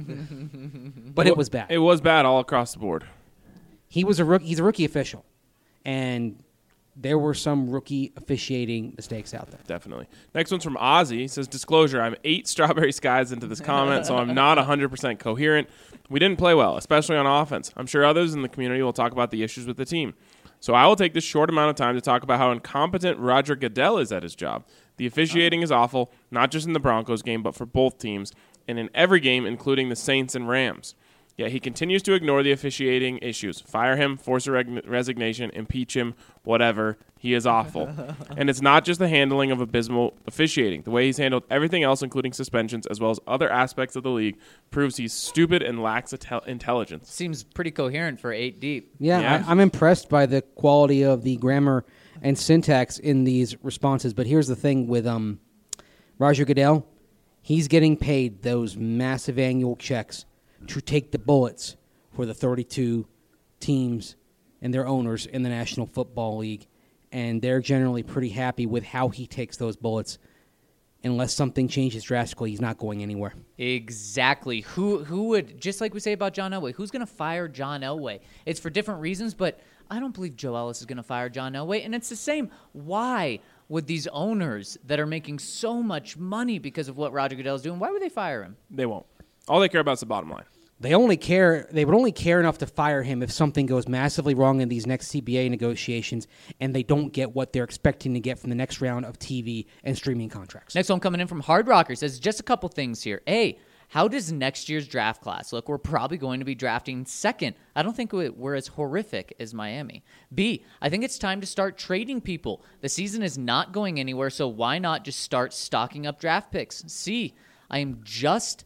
But it was bad. It was bad all across the board. He's a rookie official, and there were some rookie officiating mistakes out there. Definitely. Next one's from Ozzy. He says, disclosure, I'm 8 strawberry skies into this comment, so I'm not 100% coherent. We didn't play well, especially on offense. I'm sure others in the community will talk about the issues with the team. So I will take this short amount of time to talk about how incompetent Roger Goodell is at his job. The officiating is awful, not just in the Broncos game, but for both teams, and in every game, including the Saints and Rams. Yet he continues to ignore the officiating issues. Fire him, force a resignation, impeach him, whatever. He is awful. And it's not just the handling of abysmal officiating. The way he's handled everything else, including suspensions, as well as other aspects of the league, proves he's stupid and lacks intelligence. Seems pretty coherent for 8 deep. Yeah. I'm impressed by the quality of the grammar and syntax in these responses. But here's the thing with Roger Goodell. He's getting paid those massive annual checks to take the bullets for the 32 teams and their owners in the National Football League. And they're generally pretty happy with how he takes those bullets. Unless something changes drastically, he's not going anywhere. Exactly. Who would, just like we say about John Elway, who's going to fire John Elway? It's for different reasons, but I don't believe Joe Ellis is going to fire John Elway. And it's the same. Why would these owners that are making so much money because of what Roger Goodell is doing, why would they fire him? They won't. All they care about is the bottom line. They would only care enough to fire him if something goes massively wrong in these next CBA negotiations and they don't get what they're expecting to get from the next round of TV and streaming contracts. Next one coming in from Hard Rocker says just a couple things here. A, how does next year's draft class look? We're probably going to be drafting second. I don't think we're as horrific as Miami. B, I think it's time to start trading people. The season is not going anywhere, so why not just start stocking up draft picks? C, I am just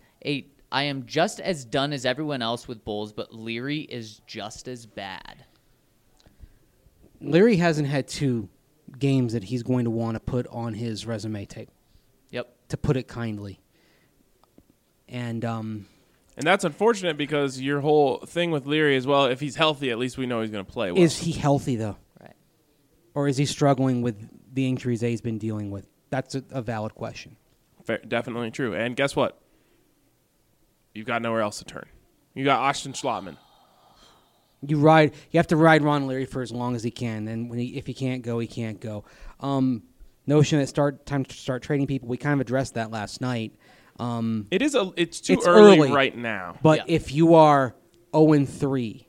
as done as everyone else with Bulls, but Leary is just as bad. Leary hasn't had 2 games that he's going to want to put on his resume tape. Yep. To put it kindly. And that's unfortunate because your whole thing with Leary as well, if he's healthy, at least we know he's going to play well. Is he healthy, though? Right. Or is he struggling with the injuries that he's been dealing with? That's a valid question. Fair, definitely true. And guess what? You've got nowhere else to turn. You got Austin Schlottman. You have to ride Ron Leary for as long as he can. And if he can't go, he can't go. Notion that time to start trading people. We kind of addressed that last night. It's too It's early early. right now. But Yeah. if you are 0-3,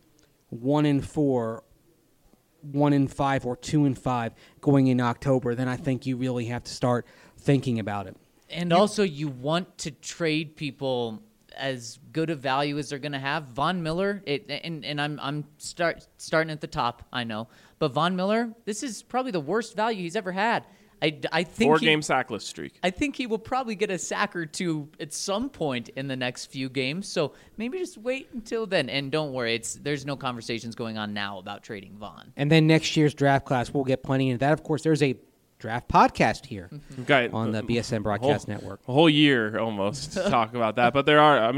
1-4, 1-5, or 2-5 going in October, then I think you really have to start thinking about it. And also, you want to trade people as good a value as they're going to have. Von Miller, and I'm starting at the top, I know. But Von Miller, this is probably the worst value he's ever had. I think 4-game sackless streak. I think he will probably get a sack or two at some point in the next few games. So maybe just wait until then. And don't worry, there's no conversations going on now about trading Vaughn. And then next year's draft class, we'll get plenty into that. Of course, there's a draft podcast here We've got on the BSN Broadcast Network. A whole year almost to talk about that. But there are,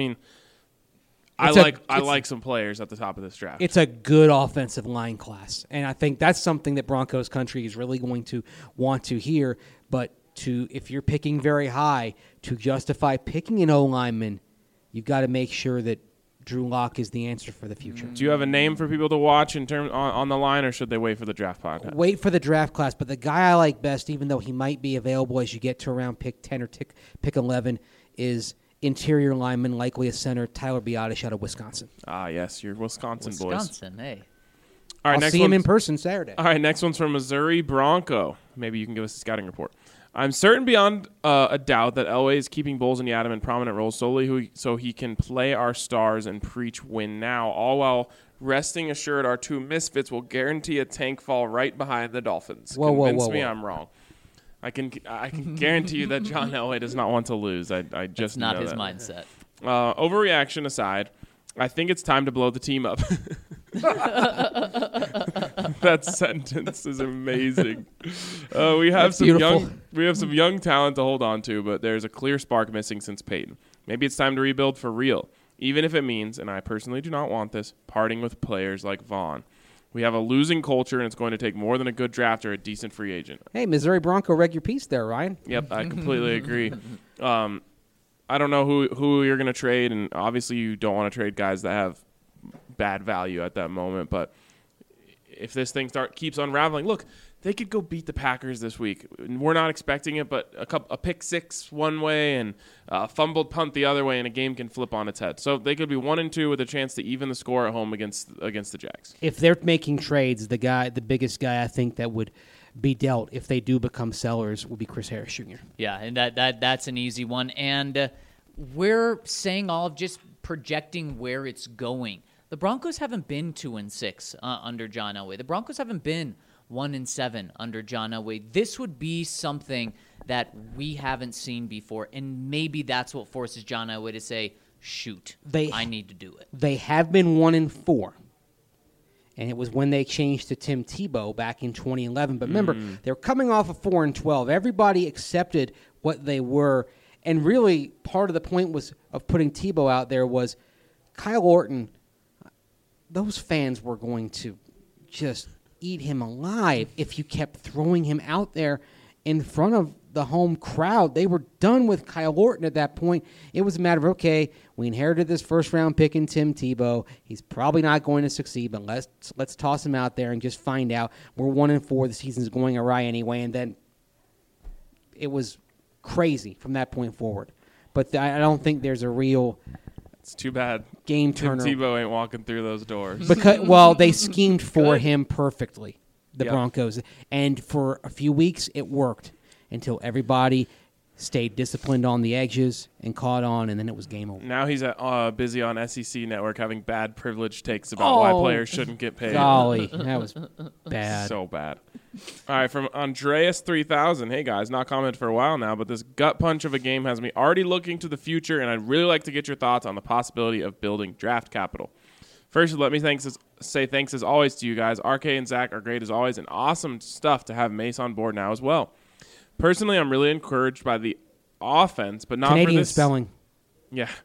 I It's like some players at the top of this draft. It's a good offensive line class, and I think that's something that Broncos country is really going to want to hear. But if you're picking very high, to justify picking an O-lineman, you've got to make sure that Drew Lock is the answer for the future. Do you have a name for people to watch in terms on the line, or should they wait for the draft podcast? Wait for the draft class, but the guy I like best, even though he might be available as you get to around pick 10 or pick 11, is interior lineman, likely a center, Tyler Biotish out of Wisconsin. Ah, yes, your Wisconsin boys. Wisconsin, hey. All right, I'll next see him in one's- person Saturday. All right, next one's from Missouri Bronco. Maybe you can give us a scouting report. I'm certain beyond a doubt that Elway is keeping Bowles and Yadam in prominent roles solely so he can play our stars and preach win now, all while resting assured our two misfits will guarantee a tank fall right behind the Dolphins. Convince me I'm wrong. I can guarantee you that John Elway does not want to lose. I just It's not know his that. mindset. Overreaction aside, I think it's time to blow the team up. That sentence is amazing. We have That's some beautiful. young talent to hold on to, but there's a clear spark missing since Peyton. Maybe it's time to rebuild for real, even if it means, and I personally do not want this, parting with players like Vaughn. We have a losing culture, and it's going to take more than a good draft or a decent free agent. Hey, Missouri Bronco, read your piece there, Ryan. Yep, I completely agree. I don't know who you're going to trade, and obviously you don't want to trade guys that have bad value at that moment. But if this thing keeps unraveling, look, they could go beat the Packers this week. We're not expecting it, but a pick six one way and a fumbled punt the other way, and a game can flip on its head. So they could be 1-2 with a chance to even the score at home against the Jags. If they're making trades, the biggest guy I think that would be dealt if they do become sellers would be Chris Harris Jr. Yeah, and that's an easy one. And we're saying all of just projecting where it's going. The Broncos haven't been 2-6 under John Elway. The Broncos haven't been 1-7 under John Elway. This would be something that we haven't seen before, and maybe that's what forces John Elway to say, shoot, I need to do it. They have been 1-4. And it was when they changed to Tim Tebow back in 2011. But remember, they're coming off of 4-12. Everybody accepted what they were. And really, part of the point of putting Tebow out there was Kyle Orton. Those fans were going to just eat him alive if you kept throwing him out there in front of the home crowd. They were done with Kyle Orton at that point. It was a matter of, okay, we inherited this first-round pick in Tim Tebow. He's probably not going to succeed, but let's toss him out there and just find out. We're 1-4. The season's going awry anyway, and then it was crazy from that point forward. But I don't think there's a real It's too bad game Tim turner. Tebow ain't walking through those doors. Because they schemed for Good. him perfectly, the Yep. Broncos, and for a few weeks it worked until everybody stayed disciplined on the edges and caught on, and then it was game over. Now he's busy on SEC Network having bad privilege takes about why Oh, players shouldn't get paid. Golly, that was bad. So bad. All right, from Andreas 3000. Hey guys, not commented for a while now, but this gut punch of a game has me already looking to the future, and I'd really like to get your thoughts on the possibility of building draft capital. First, let me say thanks as always to you guys. RK and Zach are great as always, and awesome stuff to have Mace on board now as well. Personally, I'm really encouraged by the offense, but not Canadian for this spelling. Yeah,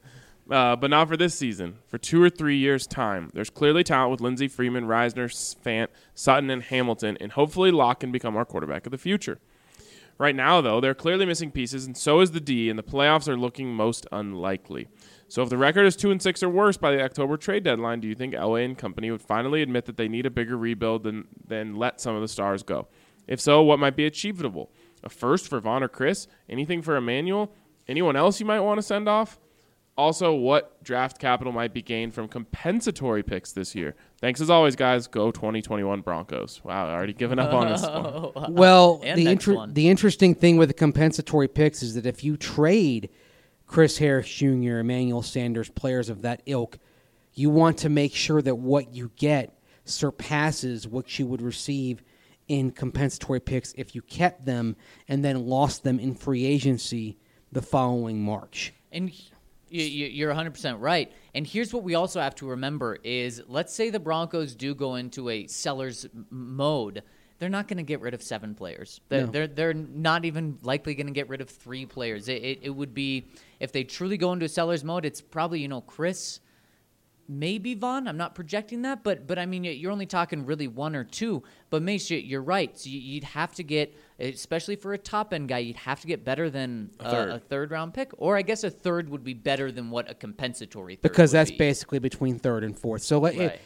But not for this season. For 2 or 3 years' time. There's clearly talent with Lindsey, Freeman, Reisner, Fant, Sutton, and Hamilton, and hopefully Locke can become our quarterback of the future. Right now, though, they're clearly missing pieces, and so is the D, and the playoffs are looking most unlikely. So if the record is 2-6 or worse by the October trade deadline, do you think Elway and company would finally admit that they need a bigger rebuild than let some of the stars go? If so, what might be achievable? A first for Vaughn or Chris? Anything for Emmanuel? Anyone else you might want to send off? Also, what draft capital might be gained from compensatory picks this year? Thanks as always, guys. Go 2021 Broncos. Wow, I already given up on this one. Well, And the next one. the interesting thing with the compensatory picks is that if you trade Chris Harris Jr., Emmanuel Sanders, players of that ilk, you want to make sure that what you get surpasses what you would receive in compensatory picks if you kept them and then lost them in free agency the following March. And you're 100% right. And here's what we also have to remember is, let's say the Broncos do go into a seller's mode. They're not going to get rid of 7 players. They're not even likely going to get rid of 3 players. It would be, if they truly go into a seller's mode, it's probably, Chris, maybe Vaughn. I'm not projecting that, but I mean, you're only talking really 1 or 2. But Mace, you're right. So you'd have to get, especially for a top-end guy, you'd have to get better than a third-round pick. Or I guess a third would be better than what a compensatory third Because would that's be. basically between 3rd and 4th. So Right.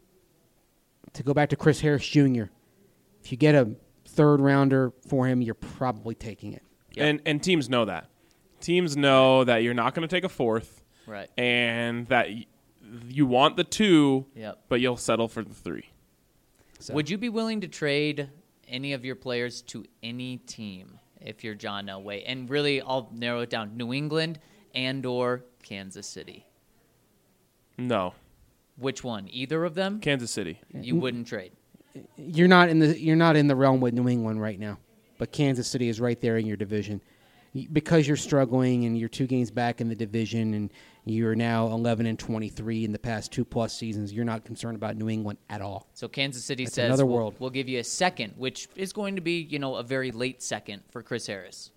to go back to Chris Harris Jr., if you get a 3rd rounder for him, you're probably taking it. Yep. And teams know that. Teams know that you're not going to take a 4th, Right. and that you want the 2, Yep. but you'll settle for the 3. So. Would you be willing to trade any of your players to any team if you're John Elway? And really, I'll narrow it down: New England and/or Kansas City. No. Which one? Either of them? Kansas City. You wouldn't trade. You're not in the realm with New England right now, but Kansas City is right there in your division. Because you're struggling and you're 2 games back in the division and you're now 11-23 in the past 2+ seasons, you're not concerned about New England at all. So Kansas City That's says, another world. We'll give you a second, which is going to be, a very late second for Chris Harris.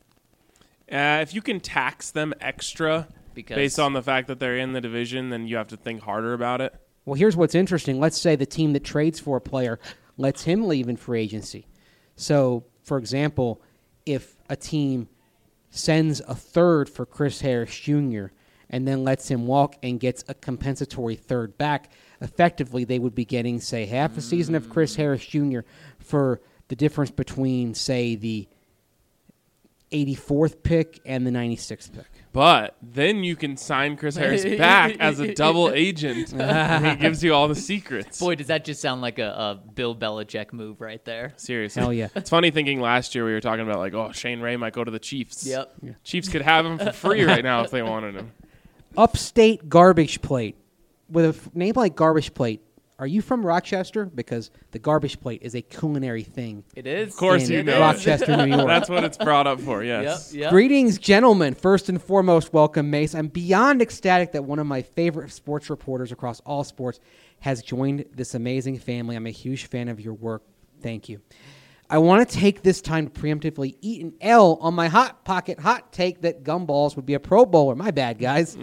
If you can tax them extra Because based on the fact that they're in the division, then you have to think harder about it. Well, here's what's interesting. Let's say the team that trades for a player lets him leave in free agency. So, for example, if a team sends a 3rd for Chris Harris Jr. and then lets him walk and gets a compensatory 3rd back, effectively they would be getting, say, half a season of Chris Harris Jr. for the difference between, say, the 84th pick and the 96th pick. But then you can sign Chris Harris back as a double agent. And he gives you all the secrets. boy, does that just sound like a Bill Belichick move right there. Seriously. Hell yeah. It's funny thinking last year we were talking about, Shane Ray might go to the Chiefs. Yep. Chiefs could have him for free right now if they wanted him. Upstate Garbage Plate. With a name like Garbage Plate, are you from Rochester? Because the Garbage Plate is a culinary thing. It is. Of course in you know. Rochester, New York. That's what it's brought up for, yes. Yep. Greetings, gentlemen. First and foremost, welcome, Mace. I'm beyond ecstatic that one of my favorite sports reporters across all sports has joined this amazing family. I'm a huge fan of your work. Thank you. I want to take this time to preemptively eat an L on my Hot Pocket hot take that Gumballs would be a Pro Bowler. My bad, guys.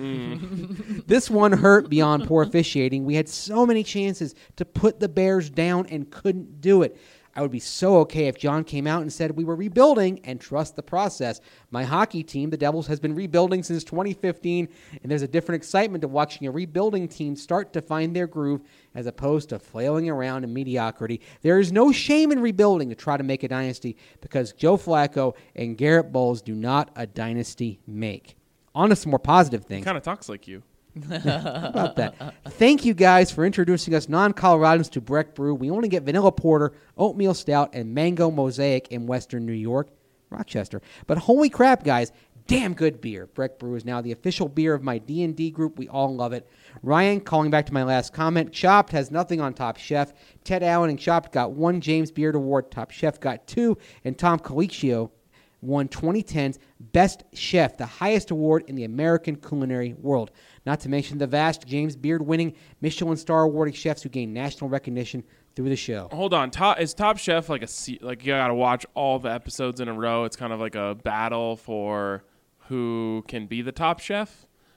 This one hurt beyond poor officiating. We had so many chances to put the Bears down and couldn't do it. I would be so okay if John came out and said we were rebuilding and trust the process. My hockey team, the Devils, has been rebuilding since 2015, and there's a different excitement to watching a rebuilding team start to find their groove as opposed to flailing around in mediocrity. There is no shame in rebuilding to try to make a dynasty because Joe Flacco and Garrett Bowles do not a dynasty make. On to some more positive He things. kind of talks like you. How about that? Thank you guys for introducing us non-Coloradans to Breck Brew. We only get vanilla porter, oatmeal stout, and mango mosaic in Western New York, Rochester. But holy crap, guys, damn good beer. Breck Brew is now the official beer of my D&D group. We all love it. Ryan, calling back to my last comment, Chopped has nothing on Top Chef. Ted Allen and Chopped got 1 James Beard Award. Top Chef got 2, and Tom Colicchio won 2010's Best Chef, the highest award in the American culinary world. Not to mention the vast James Beard-winning Michelin star awarding chefs who gain national recognition through the show. Hold on. Is Top Chef like you got to watch all the episodes in a row? It's kind of like a battle for who can be the top chef?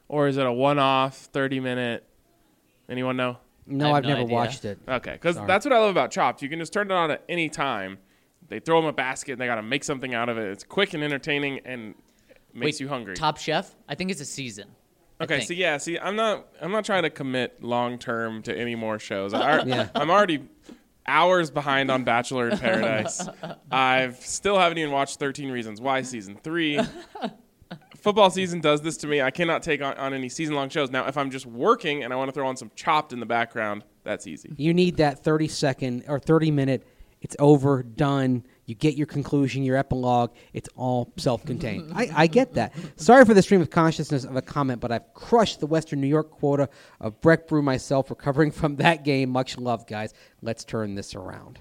or is it a one-off 30-minute? Anyone know? No, I've no never idea. watched it. Okay, because Sorry. that's what I love about Chopped. You can just turn it on at any time. They throw them a basket, and they got to make something out of it. It's quick and entertaining and makes Wait, you hungry. Top Chef? I think it's a season. I Okay, think. so I'm not trying to commit long term to any more shows. I'm Yeah. already hours behind on Bachelor in Paradise. I've still haven't even watched 13 Reasons Why season 3. Football season does this to me. I cannot take on any season long shows. Now, if I'm just working and I want to throw on some Chopped in the background, that's easy. You need that 30-second or 30-minute. It's over, done. You get your conclusion, your epilogue. It's all self-contained. I get that. Sorry for the stream of consciousness of a comment, but I've crushed the Western New York quota of Breck Brew myself, recovering from that game. Much love, guys. Let's turn this around.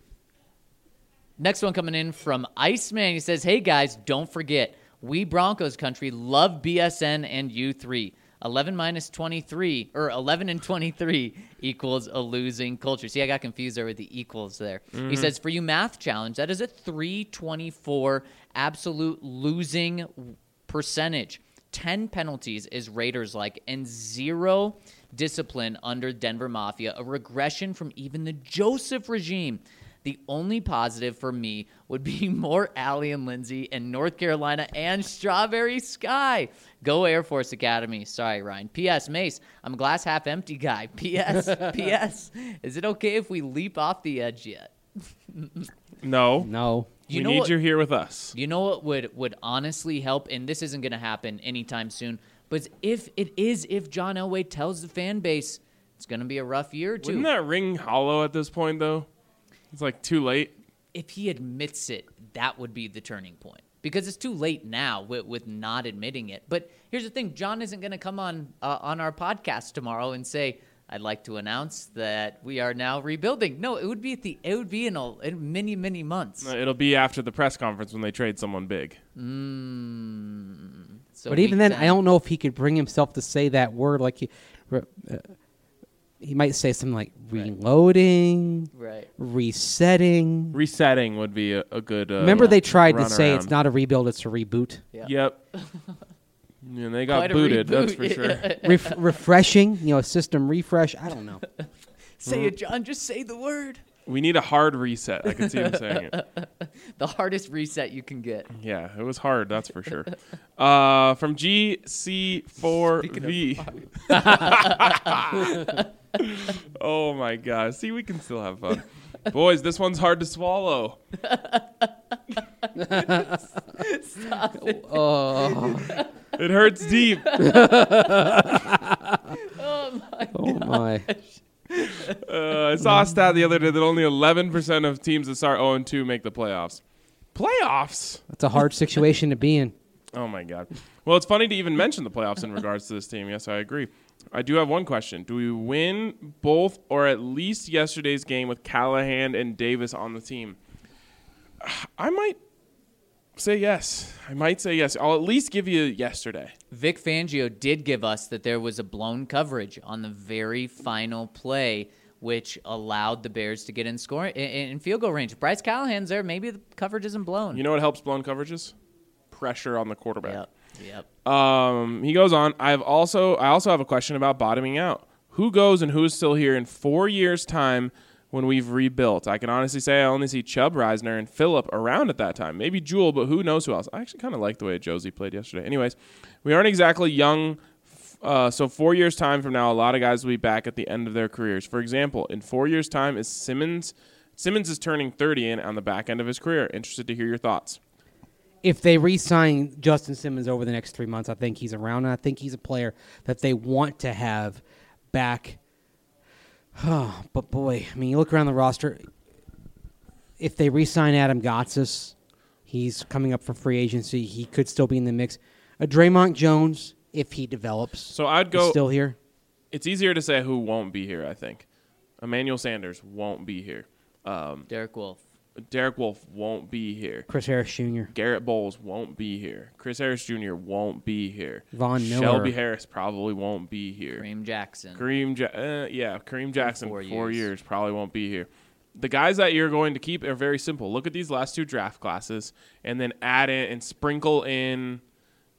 Next one coming in from Iceman. He says, hey, guys, don't forget, we Broncos country love BSN and U3. 11 minus 23, or 11 and 23 equals a losing culture. See, I got confused there with the equals there. He says, for you math challenge, that is a 324 absolute losing percentage. 10 penalties is Raiders like, and 0 discipline under Denver Mafia, a regression from even the Joseph regime. The only positive for me would be more Allie and Lindsay and North Carolina and Strawberry Sky. Go Air Force Academy. Sorry, Ryan. P.S. Mace, I'm a glass half empty guy. P.S. P.S. Is it okay if we leap off the edge yet? No. No. You we know need what- you here with us. You know what would honestly help, and this isn't going to happen anytime soon, but if John Elway tells the fan base it's going to be a rough year or two. Wouldn't that ring hollow at this point, though? It's like too late. If he admits it, that would be the turning point. Because it's too late now with not admitting it. But here's the thing. John isn't going to come on our podcast tomorrow and say, I'd like to announce that we are now rebuilding. No, it would be in many months. It'll be after the press conference when they trade someone big. So But even week then, 10. I don't know if he could bring himself to say that word. Like he might say something like reloading, Right. resetting. Resetting would be a good. Remember, they tried to run say around. it's not a rebuild; it's a reboot. Yeah. Yep. And they got Quite a booted, that's reboot. for sure. Refreshing, a system refresh. I don't know. Say it, John. Just say the word. We need a hard reset. I can see him saying it. The hardest reset you can get. Yeah, it was hard, that's for sure. From GC4V. Oh, my God. See, we can still have fun. Boys, this one's hard to swallow. Oh, It hurts deep. oh my! I saw a stat the other day that only 11% of teams that start 0-2 make the playoffs. Playoffs? That's a hard situation to be in. Oh, my God. Well, it's funny to even mention the playoffs in regards to this team. Yes, I agree. I do have one question. Do we win both or at least yesterday's game with Callahan and Davis on the team? I might say yes. I'll at least give you yesterday. Vic Fangio did give us that there was a blown coverage on the very final play, which allowed the Bears to get in field goal range. Bryce Callahan's there. Maybe the coverage isn't blown. You know what helps blown coverages? Pressure on the quarterback. Yep. He goes on. I also have a question about bottoming out. Who goes and who's still here in 4 years' time when we've rebuilt? I can honestly say I only see Chubb, Reisner, and Phillip around at that time. Maybe Jewel, but who knows who else? I actually kind of like the way Josie played yesterday. Anyways, we aren't exactly young. So 4 years' time from now, a lot of guys will be back at the end of their careers. For example, in 4 years' time, is Simmons is turning 30 and on the back end of his career. Interested to hear your thoughts. If they re-sign Justin Simmons over the next 3 months, I think he's around, and I think he's a player that they want to have back. Oh, but boy, I mean, you look around the roster. If they re-sign Adam Gotsis, he's coming up for free agency. He could still be in the mix. Draymond Jones, if he develops, So I'd is go. still here. It's easier to say who won't be here, I think. Emmanuel Sanders won't be here. Derek Wolf. Derek Wolf won't be here. Chris Harris Jr. Garrett Bowles won't be here. Chris Harris Jr. won't be here. Von Miller. Shelby Harris probably won't be here. Kareem Jackson. Kareem Jackson, 4 4 years. years, probably won't be here. The guys that you're going to keep are very simple. Look at these last two draft classes and then add in and sprinkle in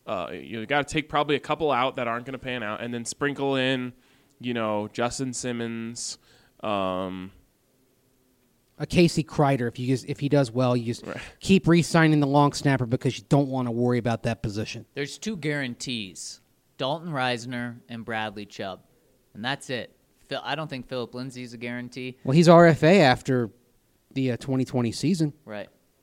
You got to take probably a couple out that aren't going to pan out, and then sprinkle in, Justin Simmons. A Casey Kreider, if he does well, you just keep re-signing the long snapper because you don't want to worry about that position. There's 2 guarantees, Dalton Reisner and Bradley Chubb, and that's it. I don't think Philip Lindsay's a guarantee. Well, he's RFA after the 2020 season. Right.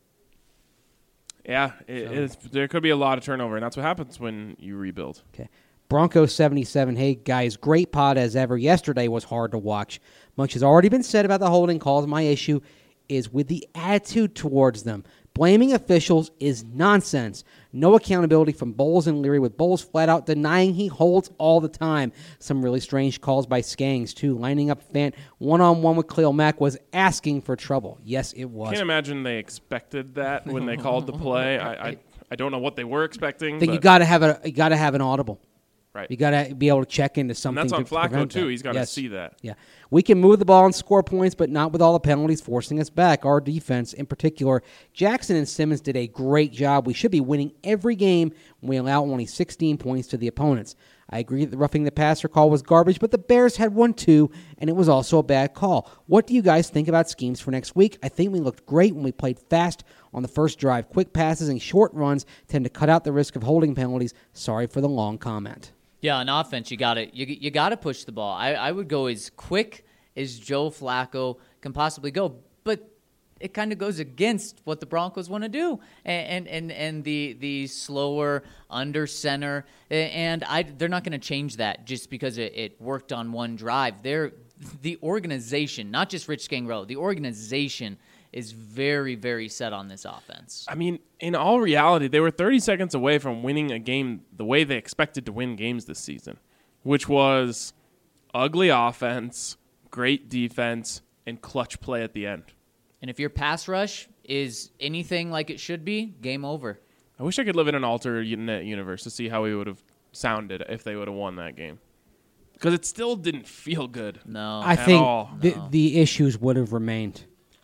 Yeah, there could be a lot of turnover, and that's what happens when you rebuild. Okay. Bronco 77, hey guys, great pod as ever. Yesterday was hard to watch. Much has already been said about the holding calls. My issue is with the attitude towards them. Blaming officials is nonsense. No accountability from Bowles and Leary, with Bowles flat out denying he holds all the time. Some really strange calls by Skangs, too. Lining up Fant one-on-one with Khalil Mack was asking for trouble. Yes, it was. Can't imagine they expected that when they called the play. I don't know what they were expecting. I think you got to have an audible. Right. You got to be able to check into something. And that's on Flacco, prevent too. that. He's got to see that. Yeah. We can move the ball and score points, but not with all the penalties forcing us back. Our defense, in particular, Jackson and Simmons did a great job. We should be winning every game when we allow only 16 points to the opponents. I agree that the roughing the passer call was garbage, but the Bears had one too, and it was also a bad call. What do you guys think about schemes for next week? I think we looked great when we played fast on the first drive. Quick passes and short runs tend to cut out the risk of holding penalties. Sorry for the long comment. Yeah, on offense, you gotta push the ball. I would go as quick as Joe Flacco can possibly go, but it kind of goes against what the Broncos want to do, and the slower under center, and they're not going to change that just because it worked on one drive. The organization, not just Rich Scangarello, the organization is very, very set on this offense. I mean, in all reality, they were 30 seconds away from winning a game the way they expected to win games this season, which was ugly offense, great defense, and clutch play at the end. And if your pass rush is anything like it should be, game over. I wish I could live in an alternate universe to see how we would have sounded if they would have won that game. Because it still didn't feel good. No. I think the issues would have remained.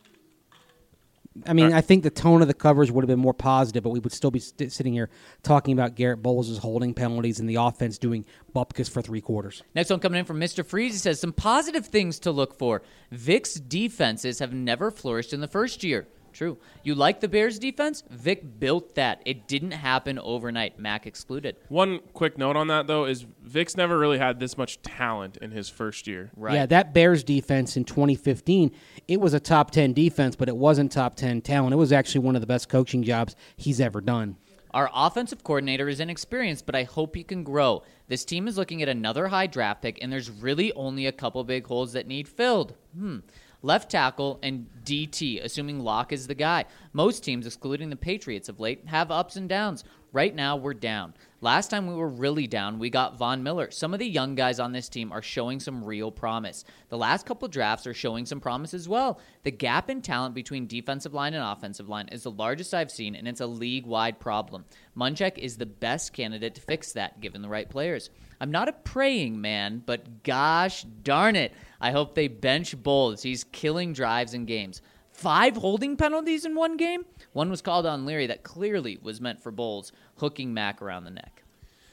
I mean, I think the tone of the coverage would have been more positive, but we would still be sitting here talking about Garrett Bowles' holding penalties and the offense doing bupkis for 3 quarters. Next one coming in from Mr. Freeze. He says, some positive things to look for. Vic's defenses have never flourished in the first year. True. You like the Bears' defense? Vic built that. It didn't happen overnight. Mac excluded. One quick note on that, though, is Vic's never really had this much talent in his first year. Right. Yeah, that Bears defense in 2015, it was a top 10 defense, but it wasn't top 10 talent. It was actually one of the best coaching jobs he's ever done. Our offensive coordinator is inexperienced, but I hope he can grow. This team is looking at another high draft pick, and there's really only a couple big holes that need filled. Left tackle and DT, assuming Locke is the guy. Most teams, excluding the Patriots of late, have ups and downs. Right now, we're down. Last time we were really down, we got Von Miller. Some of the young guys on this team are showing some real promise. The last couple drafts are showing some promise as well. The gap in talent between defensive line and offensive line is the largest I've seen, and it's a league-wide problem. Munchak is the best candidate to fix that, given the right players. I'm not a praying man, but gosh darn it, I hope they bench Bowles. He's killing drives and games. 5 holding penalties in one game? One was called on Leary that clearly was meant for Bowles, hooking Mack around the neck.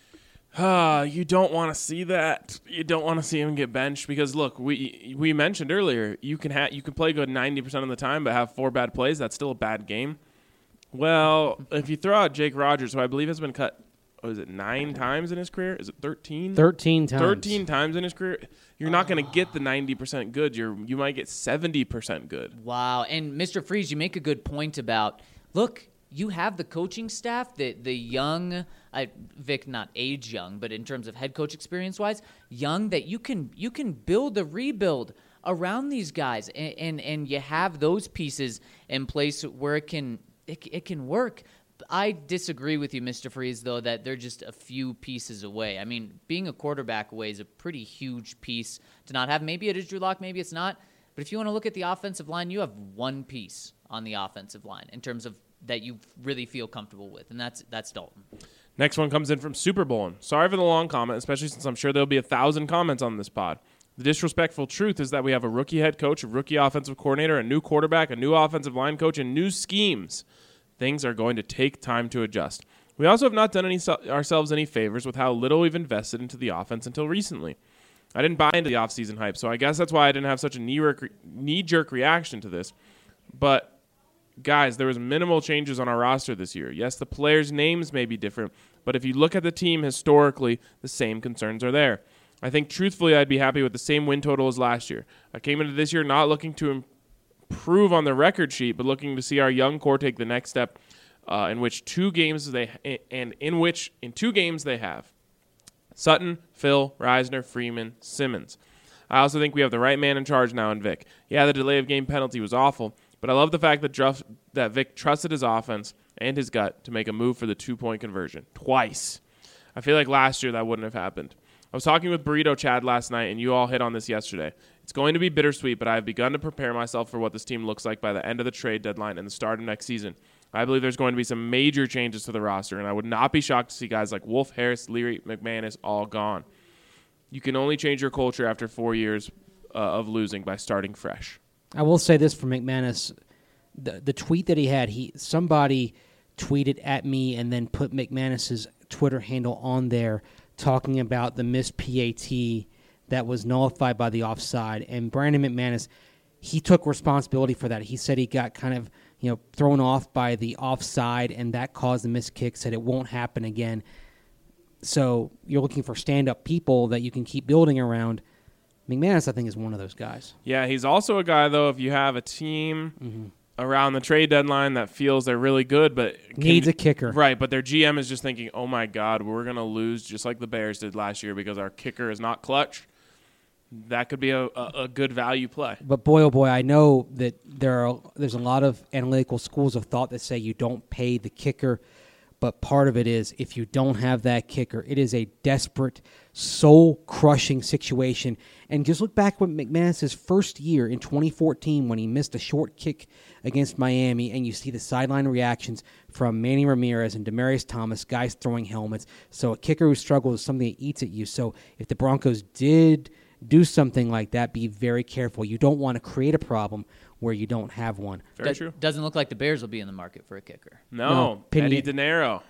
You don't want to see that. You don't want to see him get benched because, look, we mentioned earlier, you can play good 90% of the time but have 4 bad plays. That's still a bad game. Well, if you throw out Jake Rogers, who I believe has been cut, 9 times in his career? Is it 13? 13 times. 13 times in his career. You're not going to get the 90% good. You might get 70% good. Wow. And Mr. Freeze, you make a good point about, look, you have the coaching staff, the young, Vic, not age young, but in terms of head coach experience-wise, young, that you can build a rebuild around these guys, and you have those pieces in place where it can work. I disagree with you, Mr. Freeze, though, that they're just a few pieces away. I mean, being a quarterback away is a pretty huge piece to not have. Maybe it is Drew Lock, maybe it's not. But if you want to look at the offensive line, you have one piece on the offensive line in terms of that you really feel comfortable with, and that's Dalton. Next one comes in from Super Bowl. Sorry for the long comment, especially since I'm sure there'll be 1,000 comments on this pod. The disrespectful truth is that we have a rookie head coach, a rookie offensive coordinator, a new quarterback, a new offensive line coach, and new schemes. Things are going to take time to adjust. We also have not done ourselves any favors with how little we've invested into the offense until recently. I didn't buy into the offseason hype, so I guess that's why I didn't have such a knee-jerk reaction to this. But, guys, there was minimal changes on our roster this year. Yes, the players' names may be different, but if you look at the team historically, the same concerns are there. I think, truthfully, I'd be happy with the same win total as last year. I came into this year not looking to improve on the record sheet, but looking to see our young core take the next step in 2 games they have Sutton, Phil, Reisner, Freeman, Simmons. I also think we have the right man in charge now in Vic. Yeah, the delay of game penalty was awful, but I love the fact that Vic trusted his offense and his gut to make a move for the 2-point conversion twice. I feel like last year that wouldn't have happened. I was talking with Burrito Chad last night, and you all hit on this yesterday. It's going to be bittersweet, but I have begun to prepare myself for what this team looks like by the end of the trade deadline and the start of next season. I believe there's going to be some major changes to the roster, and I would not be shocked to see guys like Wolf, Harris, Leary, McManus all gone. You can only change your culture after 4 years of losing by starting fresh. I will say this for McManus. The tweet that he had, somebody tweeted at me and then put McManus's Twitter handle on there talking about the missed PAT that was nullified by the offside. And Brandon McManus, he took responsibility for that. He said he got kind of thrown off by the offside, and that caused the missed kick, said it won't happen again. So you're looking for stand-up people that you can keep building around. McManus, I think, is one of those guys. Yeah, he's also a guy, though, if you have a team around the trade deadline that feels they're really good but needs a kicker. Right, but their GM is just thinking, oh, my God, we're going to lose just like the Bears did last year because our kicker is not clutch. That could be a good value play. But boy, oh boy, I know that there's a lot of analytical schools of thought that say you don't pay the kicker, but part of it is if you don't have that kicker, it is a desperate, soul-crushing situation. And just look back at McManus' first year in 2014 when he missed a short kick against Miami, and you see the sideline reactions from Manny Ramirez and Demaryius Thomas, guys throwing helmets. So a kicker who struggles is something that eats at you. So if the Broncos did do something like that, be very careful. You don't want to create a problem where you don't have one. Very true. Doesn't look like the Bears will be in the market for a kicker. No, Eddie Dinero.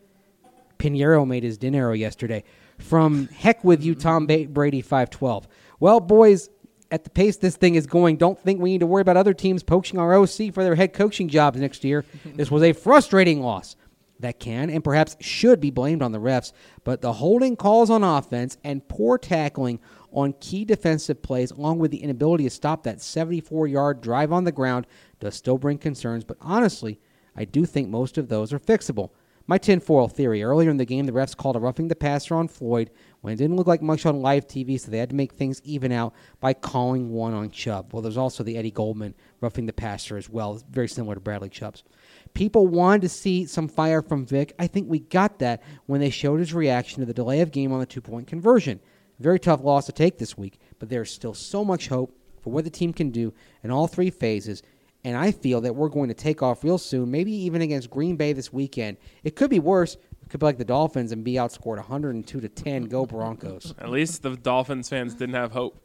Pinheiro made his dinero yesterday. From Heck With You, Tom Brady 512. Well, boys, at the pace this thing is going, don't think we need to worry about other teams poaching our OC for their head coaching jobs next year. This was a frustrating loss that can and perhaps should be blamed on the refs, but the holding calls on offense and poor tackling on key defensive plays, along with the inability to stop that 74-yard drive on the ground, does still bring concerns. But honestly, I do think most of those are fixable. My tinfoil theory, earlier in the game, the refs called a roughing the passer on Floyd when it didn't look like much on live TV, so they had to make things even out by calling one on Chubb. Well, there's also the Eddie Goldman roughing the passer as well, very similar to Bradley Chubb's. People wanted to see some fire from Vic. I think we got that when they showed his reaction to the delay of game on the 2-point conversion. Very tough loss to take this week, but there's still so much hope for what the team can do in all 3 phases, and I feel that we're going to take off real soon, maybe even against Green Bay this weekend. It could be worse. It could be like the Dolphins and be outscored 102-10. Go Broncos. At least the Dolphins fans didn't have hope.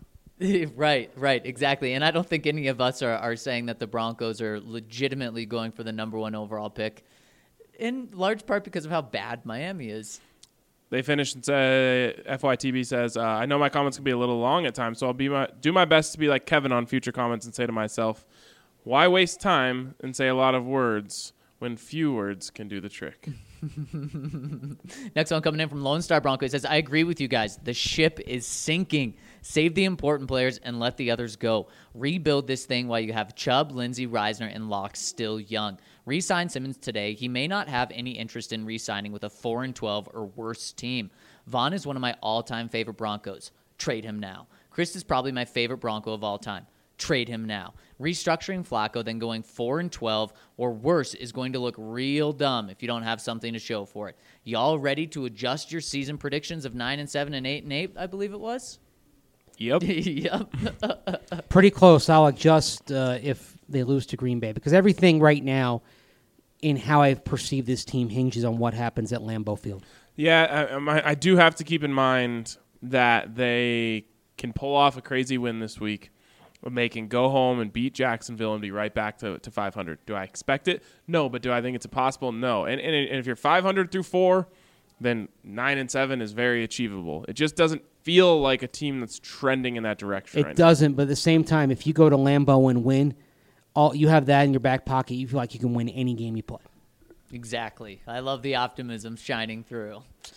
Right, exactly. And I don't think any of us are saying that the Broncos are legitimately going for the number 1 overall pick, in large part because of how bad Miami is. They finished and said, FYTB says, I know my comments can be a little long at times, so I'll do my best to be like Kevin on future comments and say to myself, why waste time and say a lot of words when few words can do the trick? Next one coming in from Lone Star Bronco. He says, I agree with you guys. The ship is sinking. Save the important players and let the others go. Rebuild this thing while you have Chubb, Lindsey, Reisner, and Locke still young. Re-sign Simmons today. He may not have any interest in re-signing with a 4-12 or worse team. Vaughn is one of my all-time favorite Broncos. Trade him now. Chris is probably my favorite Bronco of all time. Trade him now. Restructuring Flacco, then going 4-12 or worse is going to look real dumb if you don't have something to show for it. Y'all ready to adjust your season predictions of 9-7 and 8-8, I believe it was? Yep. Yep. Pretty close. I'll adjust if they lose to Green Bay, because everything right now in how I perceive this team hinges on what happens at Lambeau Field. Yeah, I do have to keep in mind that they can pull off a crazy win this week. making go home and beat Jacksonville and be right back to 500. Do I expect it? No, but do I think it's impossible? No. And if you're 500 through 4, then 9-7 is very achievable. It just doesn't feel like a team that's trending in that direction right now. It doesn't, but at the same time, if you go to Lambeau and win, you have that in your back pocket. You feel like you can win any game you play. Exactly. I love the optimism shining through.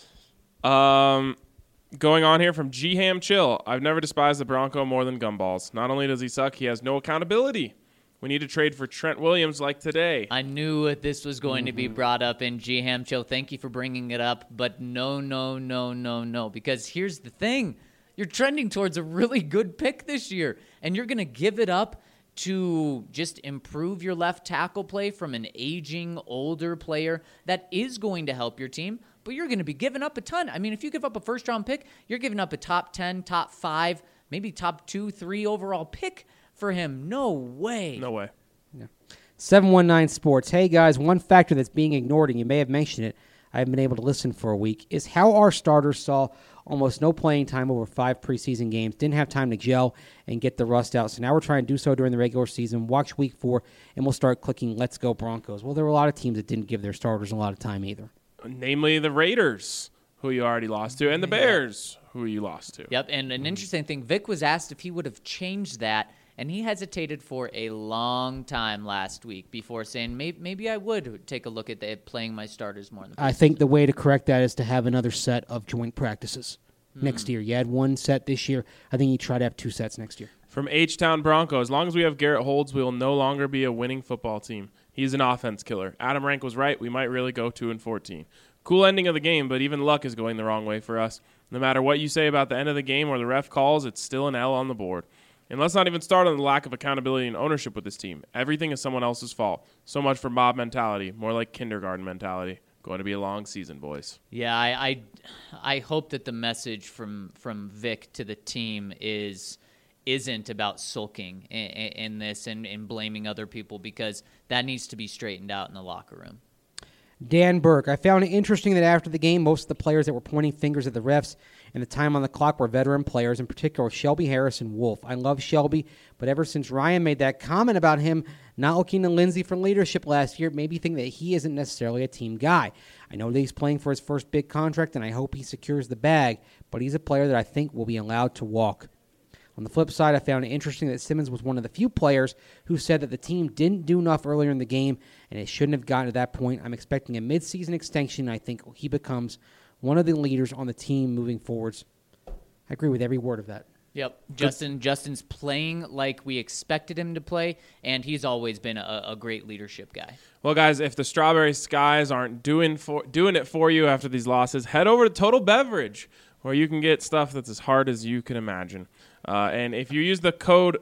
Going on here from G-Ham Chill. I've never despised the Bronco more than Gumballs. Not only does he suck, he has no accountability. We need to trade for Trent Williams like today. I knew this was going to be brought up in G-Ham Chill. Thank you for bringing it up. But no. Because here's the thing. You're trending towards a really good pick this year. And you're going to give it up to just improve your left tackle play from an aging, older player that is going to help your team. But you're going to be giving up a ton. I mean, if you give up a first-round pick, you're giving up a top 10, top 5, maybe top 2, 3 overall pick for him. No way. No way. Yeah. 719 Sports. Hey, guys, one factor that's being ignored, and you may have mentioned it, I haven't been able to listen for a week, is how our starters saw almost no playing time over 5 preseason games, didn't have time to gel and get the rust out. So now we're trying to do so during the regular season. Watch week 4, and we'll start clicking Let's Go Broncos. Well, there were a lot of teams that didn't give their starters a lot of time either. Namely the Raiders, who you already lost to, and the Bears, who you lost to. Yep, and an interesting thing, Vic was asked if he would have changed that, and he hesitated for a long time last week before saying, maybe I would take a look at playing my starters more in the preseason. I think the way to correct that is to have another set of joint practices next year. You had 1 set this year. I think you try to have 2 sets next year. From H-Town Bronco, as long as we have Garrett Holds, we will no longer be a winning football team. He's an offense killer. Adam Rank was right. We might really go 2-14. Cool ending of the game, but even luck is going the wrong way for us. No matter what you say about the end of the game or the ref calls, it's still an L on the board. And let's not even start on the lack of accountability and ownership with this team. Everything is someone else's fault. So much for mob mentality, more like kindergarten mentality. Going to be a long season, boys. Yeah, I hope that the message from Vic to the team isn't about sulking in this and blaming other people, because that needs to be straightened out in the locker room. Dan Burke, I found it interesting that after the game, most of the players that were pointing fingers at the refs and the time on the clock were veteran players, in particular Shelby Harris and Wolf. I love Shelby, but ever since Ryan made that comment about him not looking to Lindsey for leadership last year, it made me think that he isn't necessarily a team guy. I know that he's playing for his first big contract, and I hope he secures the bag, but he's a player that I think will be allowed to walk. On the flip side, I found it interesting that Simmons was one of the few players who said that the team didn't do enough earlier in the game and it shouldn't have gotten to that point. I'm expecting a midseason extension. I think he becomes one of the leaders on the team moving forwards. I agree with every word of that. Yep. Justin's playing like we expected him to play, and he's always been a great leadership guy. Well, guys, if the Strawberry Skies aren't doing it for you after these losses, head over to Total Beverage, where you can get stuff that's as hard as you can imagine. And if you use the code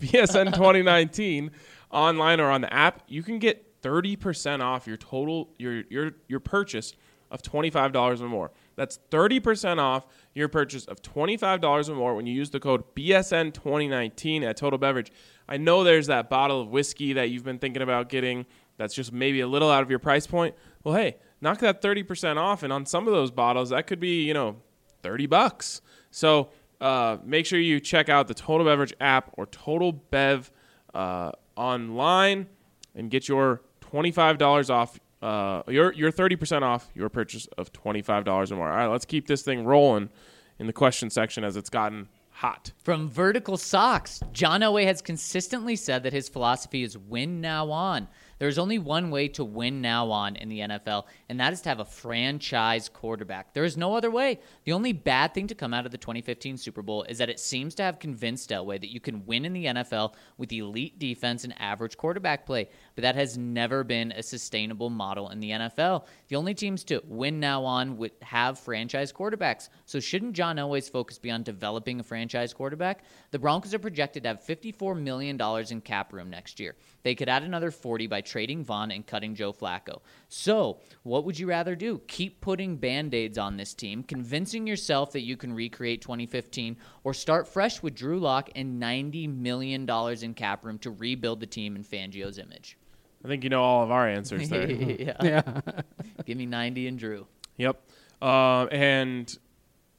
BSN2019 online or on the app, you can get 30% off your total your purchase of $25 or more. That's 30% off your purchase of $25 or more when you use the code BSN2019 at Total Beverage. I know there's that bottle of whiskey that you've been thinking about getting that's just maybe a little out of your price point. Well, hey, knock that 30% off, and on some of those bottles, that could be, $30. So make sure you check out the Total Beverage app or Total Bev online and get your $25 off, your 30% off your purchase of $25 or more. All right, let's keep this thing rolling in the question section as it's gotten hot. From Vertical Socks, John Elway has consistently said that his philosophy is win now on. There's only one way to win now on in the NFL, and that is to have a franchise quarterback. There is no other way. The only bad thing to come out of the 2015 Super Bowl is that it seems to have convinced Elway that you can win in the NFL with elite defense and average quarterback play, but that has never been a sustainable model in the NFL. The only teams to win now on would have franchise quarterbacks. So shouldn't John Elway's focus be on developing a franchise quarterback? The Broncos are projected to have $54 million in cap room next year. They could add another 40 by trading Vaughn and cutting Joe Flacco. So, what would you rather do? Keep putting Band-Aids on this team, convincing yourself that you can recreate 2015, or start fresh with Drew Lock and $90 million in cap room to rebuild the team in Fangio's image? I think you know all of our answers there. Yeah. Give me 90 and Drew. Yep. And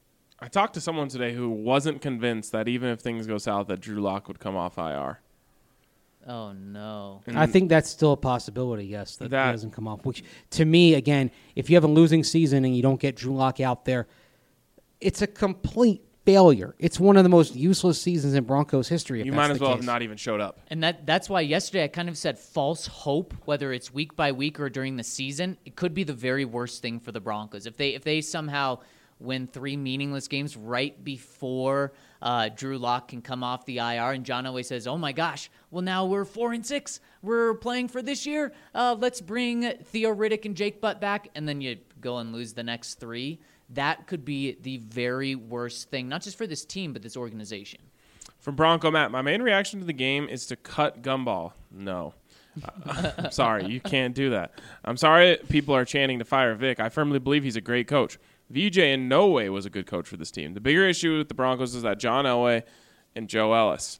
I talked to someone today who wasn't convinced that even if things go south, that Drew Lock would come off IR. Oh, no. I think that's still a possibility, yes, that That- he doesn't come off. Which, to me, again, if you have a losing season and you don't get Drew Lock out there, it's a complete failure. It's one of the most useless seasons in Broncos history. If You that's might as the well case. have not even showed up. And that's why yesterday I kind of said false hope, whether it's week by week or during the season. It could be the very worst thing for the Broncos. If they somehow win 3 meaningless games right before Drew Lock can come off the IR, and John Elway says, "Oh my gosh, well now we're 4-6. We're playing for this year. Let's bring Theo Riddick and Jake Butt back," and then you go and lose the next 3. That could be the very worst thing, not just for this team, but this organization. From Bronco Matt, my main reaction to the game is to cut Gumball. No. I'm sorry, you can't do that. I'm sorry people are chanting to fire Vic. I firmly believe he's a great coach. VJ in no way was a good coach for this team. The bigger issue with the Broncos is that John Elway and Joe Ellis.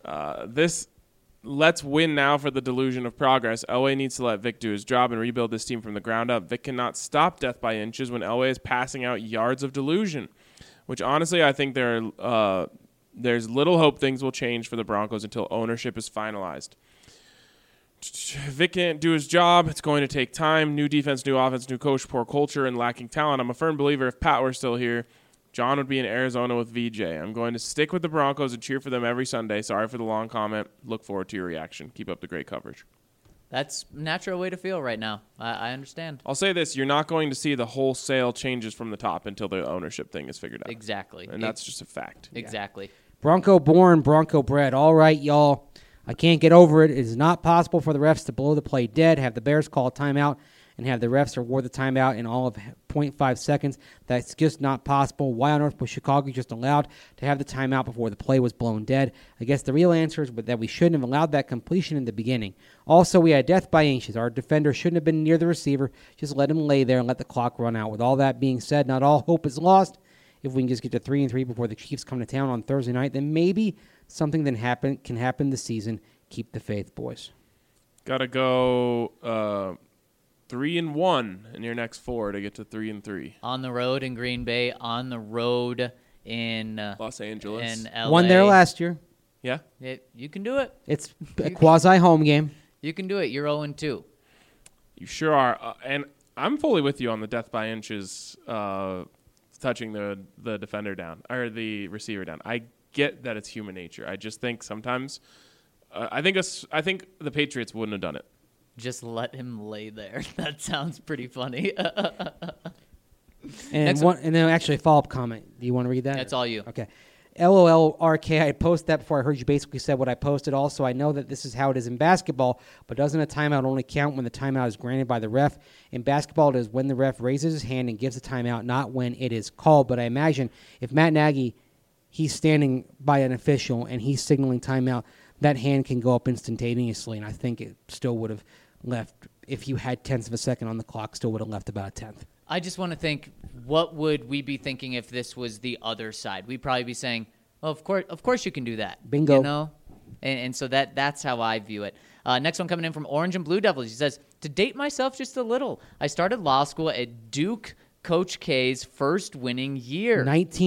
Let's win now for the delusion of progress. Elway needs to let Vic do his job and rebuild this team from the ground up. Vic cannot stop death by inches when Elway is passing out yards of delusion, which honestly I think there's little hope things will change for the Broncos until ownership is finalized. Vic can't do his job. It's going to take time. New defense, new offense, new coach, poor culture, and lacking talent. I'm a firm believer if Pat were still here, John would be in Arizona with VJ. I'm going to stick with the Broncos and cheer for them every Sunday. Sorry for the long comment. Look forward to your reaction. Keep up the great coverage. That's a natural way to feel right now. I understand. I'll say this. You're not going to see the wholesale changes from the top until the ownership thing is figured out. Exactly. And that's just a fact. Exactly. Bronco born, Bronco bred. All right, y'all. I can't get over it. It is not possible for the refs to blow the play dead, have the Bears call a timeout, and have the refs award the timeout in all of 0.5 seconds. That's just not possible. Why on earth was Chicago just allowed to have the timeout before the play was blown dead? I guess the real answer is that we shouldn't have allowed that completion in the beginning. Also, we had death by inches. Our defender shouldn't have been near the receiver. Just let him lay there and let the clock run out. With all that being said, not all hope is lost. If we can just get to 3-3 before the Chiefs come to town on Thursday night, then maybe something can happen this season. Keep the faith, boys. Got to go 3-1 in your next 4 to get to 3-3. On the road in Green Bay, on the road in Los Angeles. in LA. Won there last year. Yeah. You can do it. It's a quasi-home game. You can do it. You're 0-2. You sure are. And I'm fully with you on the death by inches touching the defender down or the receiver down. I get that it's human nature. I just think sometimes I think the Patriots wouldn't have done it. Just let him lay there. That sounds pretty funny. And Next and then actually a follow-up comment. Do you want to read that? That's all you. Okay. LOLRK, I posted that before I heard you basically said what I posted. Also, I know that this is how it is in basketball, but doesn't a timeout only count when the timeout is granted by the ref? In basketball, it is when the ref raises his hand and gives a timeout, not when it is called. But I imagine if Matt Nagy, he's standing by an official and he's signaling timeout, that hand can go up instantaneously, and I think it still would have left, if you had tenths of a second on the clock, still would have left about a tenth. I just want to think, what would we be thinking if this was the other side? We'd probably be saying, well, of course you can do that. Bingo. You know? And so that's how I view it. Next one coming in from Orange and Blue Devils. He says, to date myself just a little, I started law school at Duke Coach K's first winning year.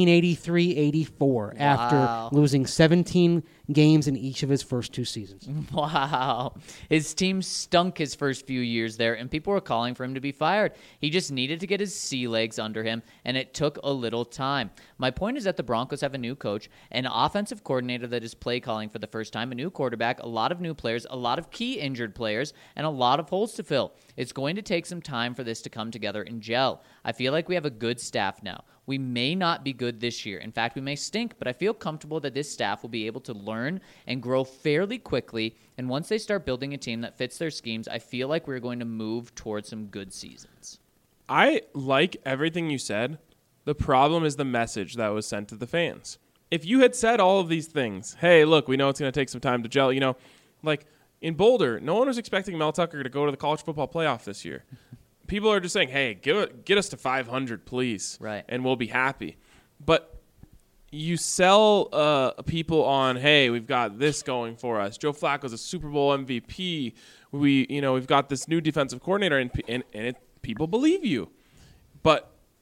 1983-84, after losing 17 games in each of his first 2 seasons. Wow. His team stunk his first few years there, and people were calling for him to be fired. He just needed to get his sea legs under him, and it took a little time. My point is that the Broncos have a new coach, an offensive coordinator that is play calling for the first time, a new quarterback, a lot of new players, a lot of key injured players, and a lot of holes to fill. It's going to take some time for this to come together and gel. I feel like we have a good staff now. We may not be good this year. In fact, we may stink, but I feel comfortable that this staff will be able to learn and grow fairly quickly. And once they start building a team that fits their schemes, I feel like we're going to move towards some good seasons. I like everything you said. The problem is the message that was sent to the fans. If you had said all of these things, hey, look, we know it's going to take some time to gel, like in Boulder, no one was expecting Mel Tucker to go to the college football playoff this year. People are just saying, hey, get us to 500, please, right, and we'll be happy. But you sell people on, hey, we've got this going for us. Joe Flacco's a Super Bowl MVP. We've got this new defensive coordinator, and people believe you. But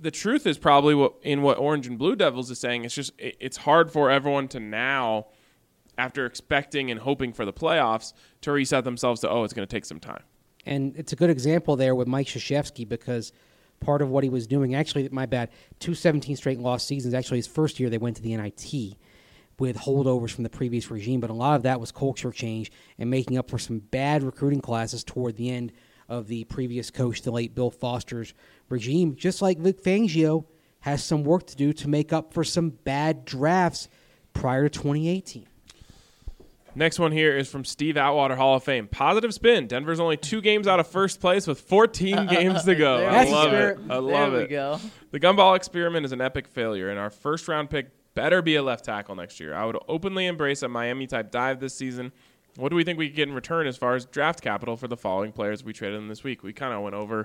the truth is probably what Orange and Blue Devils is saying. It's just it's hard for everyone to now, after expecting and hoping for the playoffs, to reset themselves to, it's going to take some time. And it's a good example there with Mike Krzyzewski because part of what he was doing, actually, my bad, 2 17 straight lost seasons. Actually, his first year they went to the NIT with holdovers from the previous regime, but a lot of that was culture change and making up for some bad recruiting classes toward the end of the previous coach, the late Bill Foster's regime. Just like Vic Fangio has some work to do to make up for some bad drafts prior to 2018. Next one here is from Steve Atwater, Hall of Fame. Positive spin. Denver's only 2 games out of first place with 14 games to go. I love it. I love it. There we go. The gumball experiment is an epic failure, and our first-round pick better be a left tackle next year. I would openly embrace a Miami-type dive this season. What do we think we could get in return as far as draft capital for the following players we traded in this week? We kind of went over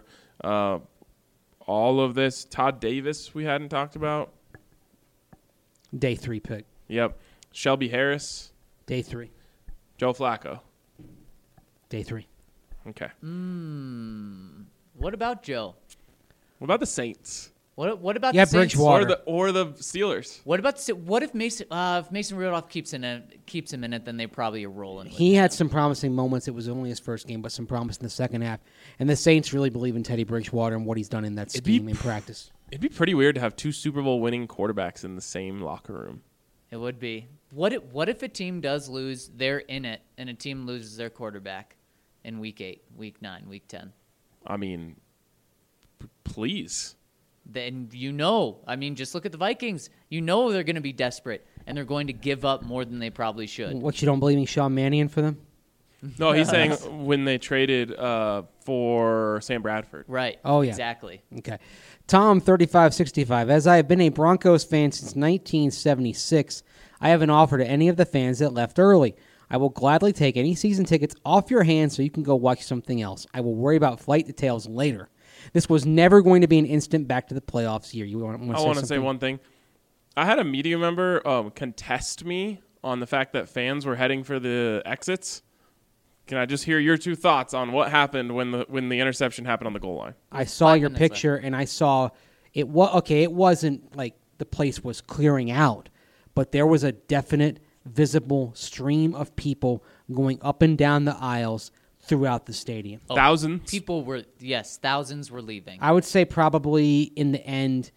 all of this. Todd Davis we hadn't talked about. Day 3 pick. Yep. Shelby Harris. Day 3. Joe Flacco. Day 3. Okay. What about Joe? What about the Saints? What about Yeah, the Saints? Bridgewater. Or the Steelers? What if Mason Rudolph keeps him in it? Then they probably are rolling. He had some promising moments. It was only his first game, but some promise in the second half. And the Saints really believe in Teddy Bridgewater and what he's done in that scheme in practice. It'd be pretty weird to have 2 Super Bowl winning quarterbacks in the same locker room. It would be. What if a team does lose, they're in it, and a team loses their quarterback in week 8, week 9, week 10? I mean, please. Then just look at the Vikings. You know they're going to be desperate, and they're going to give up more than they probably should. What, you don't believe in Sean Mannion for them? No, he's saying when they traded for Sam Bradford. Right. Oh, yeah. Exactly. Okay. Tom, 3565. As I have been a Broncos fan since 1976, I have an offer to any of the fans that left early. I will gladly take any season tickets off your hands so you can go watch something else. I will worry about flight details later. This was never going to be an instant back to the playoffs year. I want to say one thing. I had a media member contest me on the fact that fans were heading for the exits. Can I just hear your 2 thoughts on what happened when the interception happened on the goal line? I saw your picture, and I saw it. It wasn't like the place was clearing out, but there was a definite, visible stream of people going up and down the aisles throughout the stadium. Thousands? Thousands were leaving. I would say probably in the end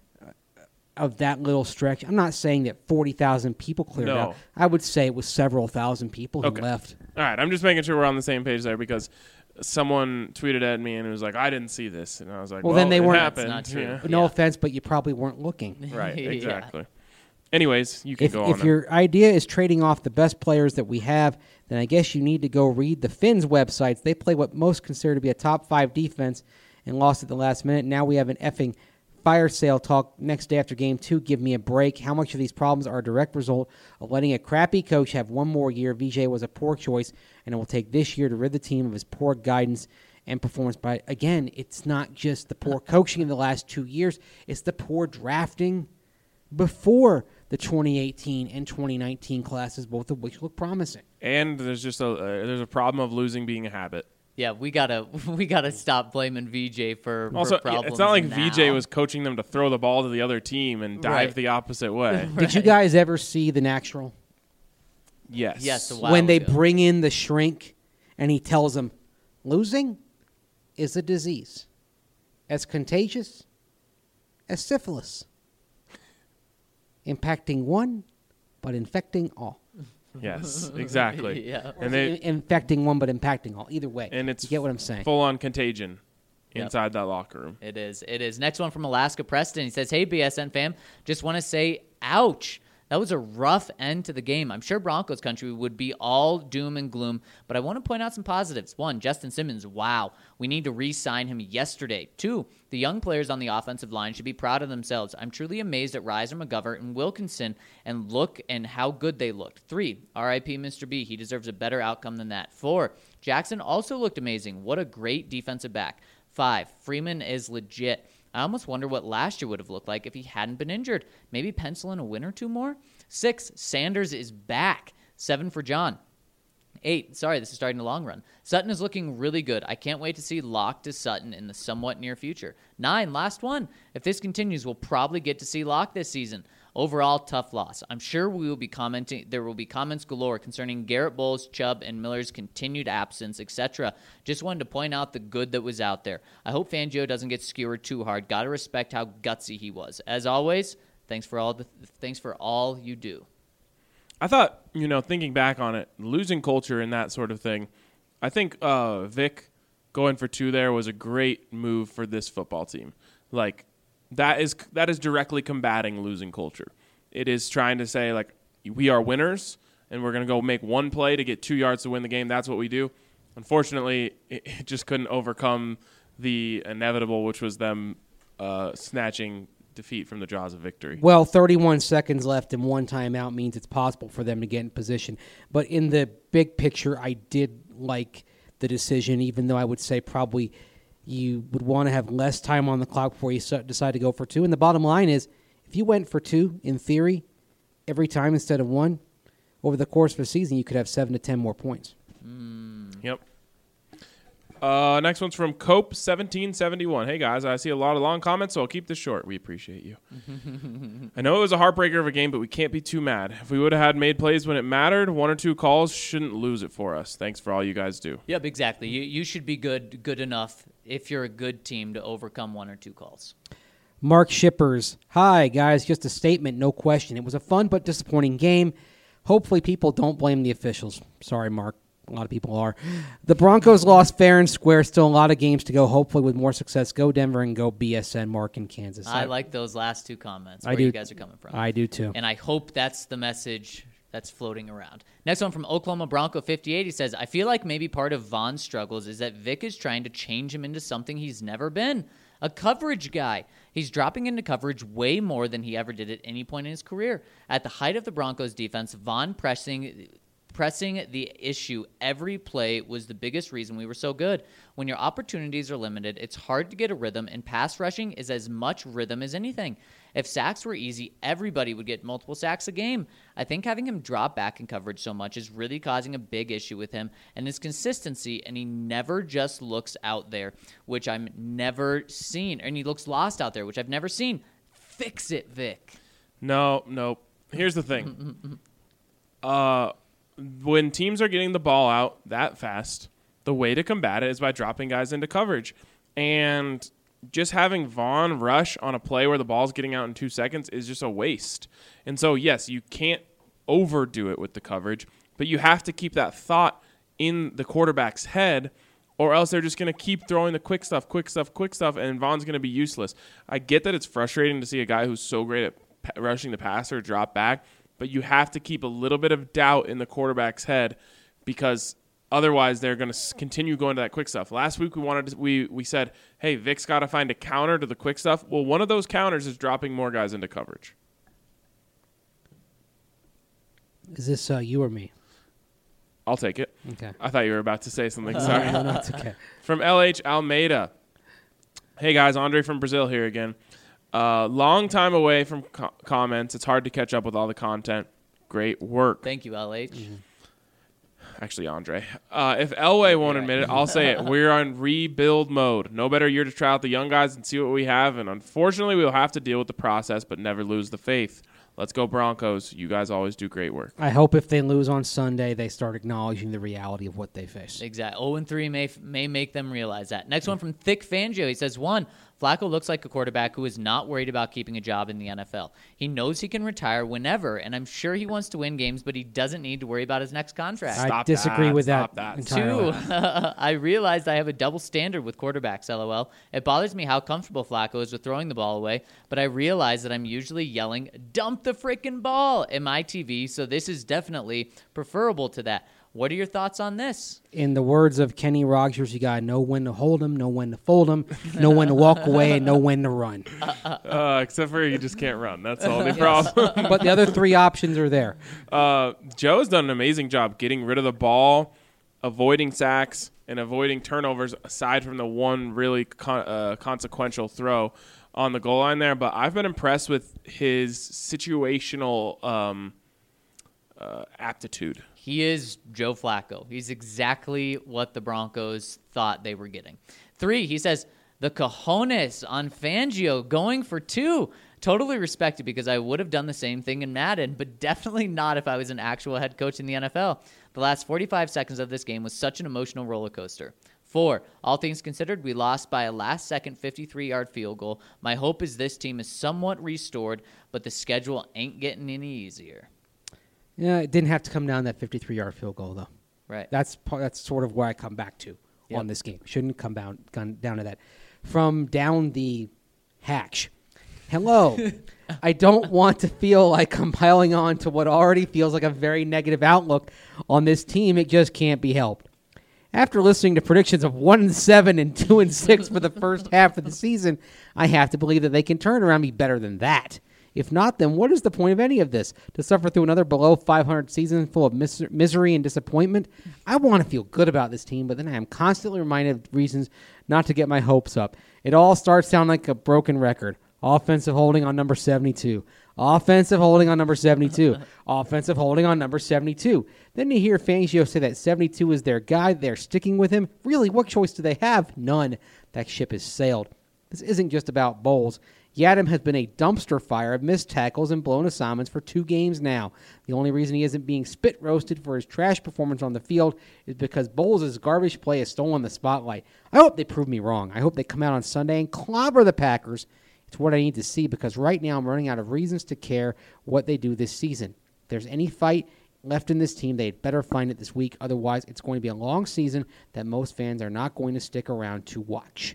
of that little stretch, I'm not saying that 40,000 people cleared out. I would say it was several thousand people who left. All right, I'm just making sure we're on the same page there because someone tweeted at me and it was like, I didn't see this. And I was like, well then they weren't. Happened. That's not true. Yeah. No offense, but you probably weren't looking. Right, Yeah. exactly. Anyways, you can go on. If your idea is trading off the best players that we have, then I guess you need to go read the Finns websites. They play what most consider to be a top 5 defense and lost at the last minute. Now we have an effing fire sale talk next day after game 2. Give me a break. How much of these problems are a direct result of letting a crappy coach have one more year? VJ was a poor choice, and it will take this year to rid the team of his poor guidance and performance. But again, it's not just the poor coaching in the last 2 years. It's the poor drafting before the 2018 and 2019 classes, both of which look promising. And there's just there's a problem of losing being a habit. Yeah, we gotta stop blaming VJ for problems. It's not like now. VJ was coaching them to throw the ball to the other team and dive the opposite way. Did you guys ever see The Natural? Yes. Yes, a while When they ago. bring in the shrink and he tells them, losing is a disease as contagious as syphilis, impacting one but infecting all. Yes, exactly. Yeah. And they Infecting one but impacting all. Either way, and it's you get what I'm saying. full on contagion inside that locker room. It is. Next one from Alaska Preston. He says, hey, BSN fam, just want to say, ouch. That was a rough end to the game. I'm sure Broncos country would be all doom and gloom, but I want to point out some positives. 1, Justin Simmons, wow. We need to re-sign him yesterday. 2, the young players on the offensive line should be proud of themselves. I'm truly amazed at Reiser, McGovern, and Wilkinson and how good they looked. 3, RIP Mr. B. He deserves a better outcome than that. 4, Jackson also looked amazing. What a great defensive back. 5, Freeman is legit. I almost wonder what last year would have looked like if he hadn't been injured. Maybe pencil in a win or 2 more? 6, Sanders is back. 7 for John. 8, sorry, this is starting the long run. Sutton is looking really good. I can't wait to see Locke to Sutton in the somewhat near future. 9, last one. If this continues, we'll probably get to see Locke this season. Overall, tough loss. I'm sure there will be comments galore concerning Garrett Bowles, Chubb, and Miller's continued absence, etc. Just wanted to point out the good that was out there. I hope Fangio doesn't get skewered too hard. Gotta respect how gutsy he was. As always, thanks for all you do. I thought, thinking back on it, losing culture and that sort of thing, I think Vic going for 2 there was a great move for this football team. Like, that is directly combating losing culture. It is trying to say, like, we are winners, and we're going to go make one play to get 2 yards to win the game. That's what we do. Unfortunately, it just couldn't overcome the inevitable, which was them snatching defeat from the jaws of victory. Well, 31 seconds left and 1 timeout means it's possible for them to get in position. But in the big picture, I did like the decision, even though I would say probably you would want to have less time on the clock before you decide to go for 2. And the bottom line is, if you went for 2, in theory, every time instead of 1, over the course of a season, you could have 7 to 10 more points. Yep. Next one's from Cope1771. Hey, guys, I see a lot of long comments, so I'll keep this short. We appreciate you. I know it was a heartbreaker of a game, but we can't be too mad. If we would have had made plays when it mattered, 1 or 2 calls shouldn't lose it for us. Thanks for all you guys do. Yep, exactly. You should be good enough if you're a good team to overcome 1 or 2 calls. Mark Shippers. Hi, guys. Just a statement, no question. It was a fun but disappointing game. Hopefully people don't blame the officials. Sorry, Mark. A lot of people are. The Broncos lost fair and square. Still a lot of games to go. Hopefully with more success. Go Denver and go BSN. Mark in Kansas. I like those last 2 comments. Where I do. You guys are coming from. I do too. And I hope that's the message that's floating around. Next one from Oklahoma Bronco 58. He says, I feel like maybe part of Von's struggles is that Vic is trying to change him into something he's never been. A coverage guy. He's dropping into coverage way more than he ever did at any point in his career. At the height of the Broncos defense, Von pressing the issue every play was the biggest reason we were so good. When your opportunities are limited, it's hard to get a rhythm, and pass rushing is as much rhythm as anything. If sacks were easy, everybody would get multiple sacks a game. I think having him drop back in coverage so much is really causing a big issue with him and his consistency, and he never just looks out there, which I've never seen. And he looks lost out there, which I've never seen. Fix it, Vic. No. Here's the thing. When teams are getting the ball out that fast, the way to combat it is by dropping guys into coverage. And just having Von rush on a play where the ball's getting out in 2 seconds is just a waste. And so, yes, you can't overdo it with the coverage, but you have to keep that thought in the quarterback's head, or else they're just going to keep throwing the quick stuff, and Von's going to be useless. I get that it's frustrating to see a guy who's so great at rushing the passer drop back, but you have to keep a little bit of doubt in the quarterback's head, because otherwise they're going to continue going to that quick stuff. Last week we said, hey, Vic's got to find a counter to the quick stuff. Well, one of those counters is dropping more guys into coverage. Is this you or me? I'll take it. Okay. I thought you were about to say something. Sorry. No, it's okay. From LH Almeida. Hey, guys. Andre from Brazil here again. Long time away from comments. It's hard to catch up with all the content. Great work. Thank you, LH. Mm-hmm. Actually, Andre. If Elway won't admit it, I'll say it. We're on rebuild mode. No better year to try out the young guys and see what we have. And unfortunately, we'll have to deal with the process, but never lose the faith. Let's go Broncos. You guys always do great work. I hope if they lose on Sunday, they start acknowledging the reality of what they face. Exactly. 0-3 may make them realize that. Next one from Thick Fangio. He says, 1, Flacco looks like a quarterback who is not worried about keeping a job in the NFL. He knows he can retire whenever, and I'm sure he wants to win games, but he doesn't need to worry about his next contract. I disagree with that entirely. 2, I realized I have a double standard with quarterbacks, LOL. It bothers me how comfortable Flacco is with throwing the ball away, but I realize that I'm usually yelling, dump the frickin' ball in my TV, so this is definitely preferable to that. What are your thoughts on this? In the words of Kenny Rogers, you got to know when to hold him, know when to fold him, know when to walk away, and know when to run. Except for you just can't run. That's the only problem. But the other 3 options are there. Joe's done an amazing job getting rid of the ball, avoiding sacks, and avoiding turnovers, aside from the one really consequential throw on the goal line there. But I've been impressed with his situational aptitude. He is Joe Flacco. He's exactly what the Broncos thought they were getting. 3, he says, the cojones on Fangio going for 2. Totally respect it because I would have done the same thing in Madden, but definitely not if I was an actual head coach in the NFL. The last 45 seconds of this game was such an emotional roller coaster. 4, all things considered, we lost by a last-second 53-yard field goal. My hope is this team is somewhat restored, but the schedule ain't getting any easier. Yeah, it didn't have to come down that 53-yard field goal, though. Right. That's sort of where I come back to on this game. Shouldn't come down to that. From down the hatch. Hello. I don't want to feel like I'm piling on to what already feels like a very negative outlook on this team. It just can't be helped. After listening to predictions of 1-7 and 2-6 for the first half of the season, I have to believe that they can turn around and be better than that. If not, then what is the point of any of this? To suffer through another below 500 season full of misery and disappointment? I want to feel good about this team, but then I am constantly reminded of reasons not to get my hopes up. It all starts sounding like a broken record. Offensive holding on number 72. Offensive holding on number 72. Offensive holding on number 72. Then you hear Fangio say that 72 is their guy. They're sticking with him. Really, what choice do they have? None. That ship has sailed. This isn't just about Bowles. Yadam has been a dumpster fire of missed tackles and blown assignments for 2 games now. The only reason he isn't being spit roasted for his trash performance on the field is because Bowles' garbage play has stolen the spotlight. I hope they prove me wrong. I hope they come out on Sunday and clobber the Packers. It's what I need to see because right now I'm running out of reasons to care what they do this season. If there's any fight left in this team, they'd better find it this week. Otherwise, it's going to be a long season that most fans are not going to stick around to watch.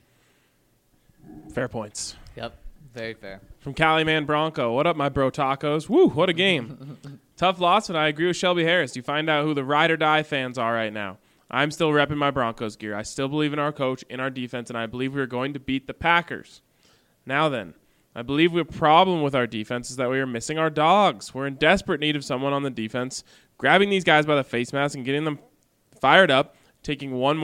Fair points. Yep, very fair. From Cali Man Bronco. What up, my bro tacos? Woo, what a game. Tough loss, but I agree with Shelby Harris. You find out who the ride or die fans are right now. I'm still repping my Broncos gear. I still believe in our coach, in our defense, and I believe we are going to beat the Packers. Now then, I believe the problem with our defense is that we are missing our dogs. We're in desperate need of someone on the defense grabbing these guys by the face mask and getting them fired up, taking one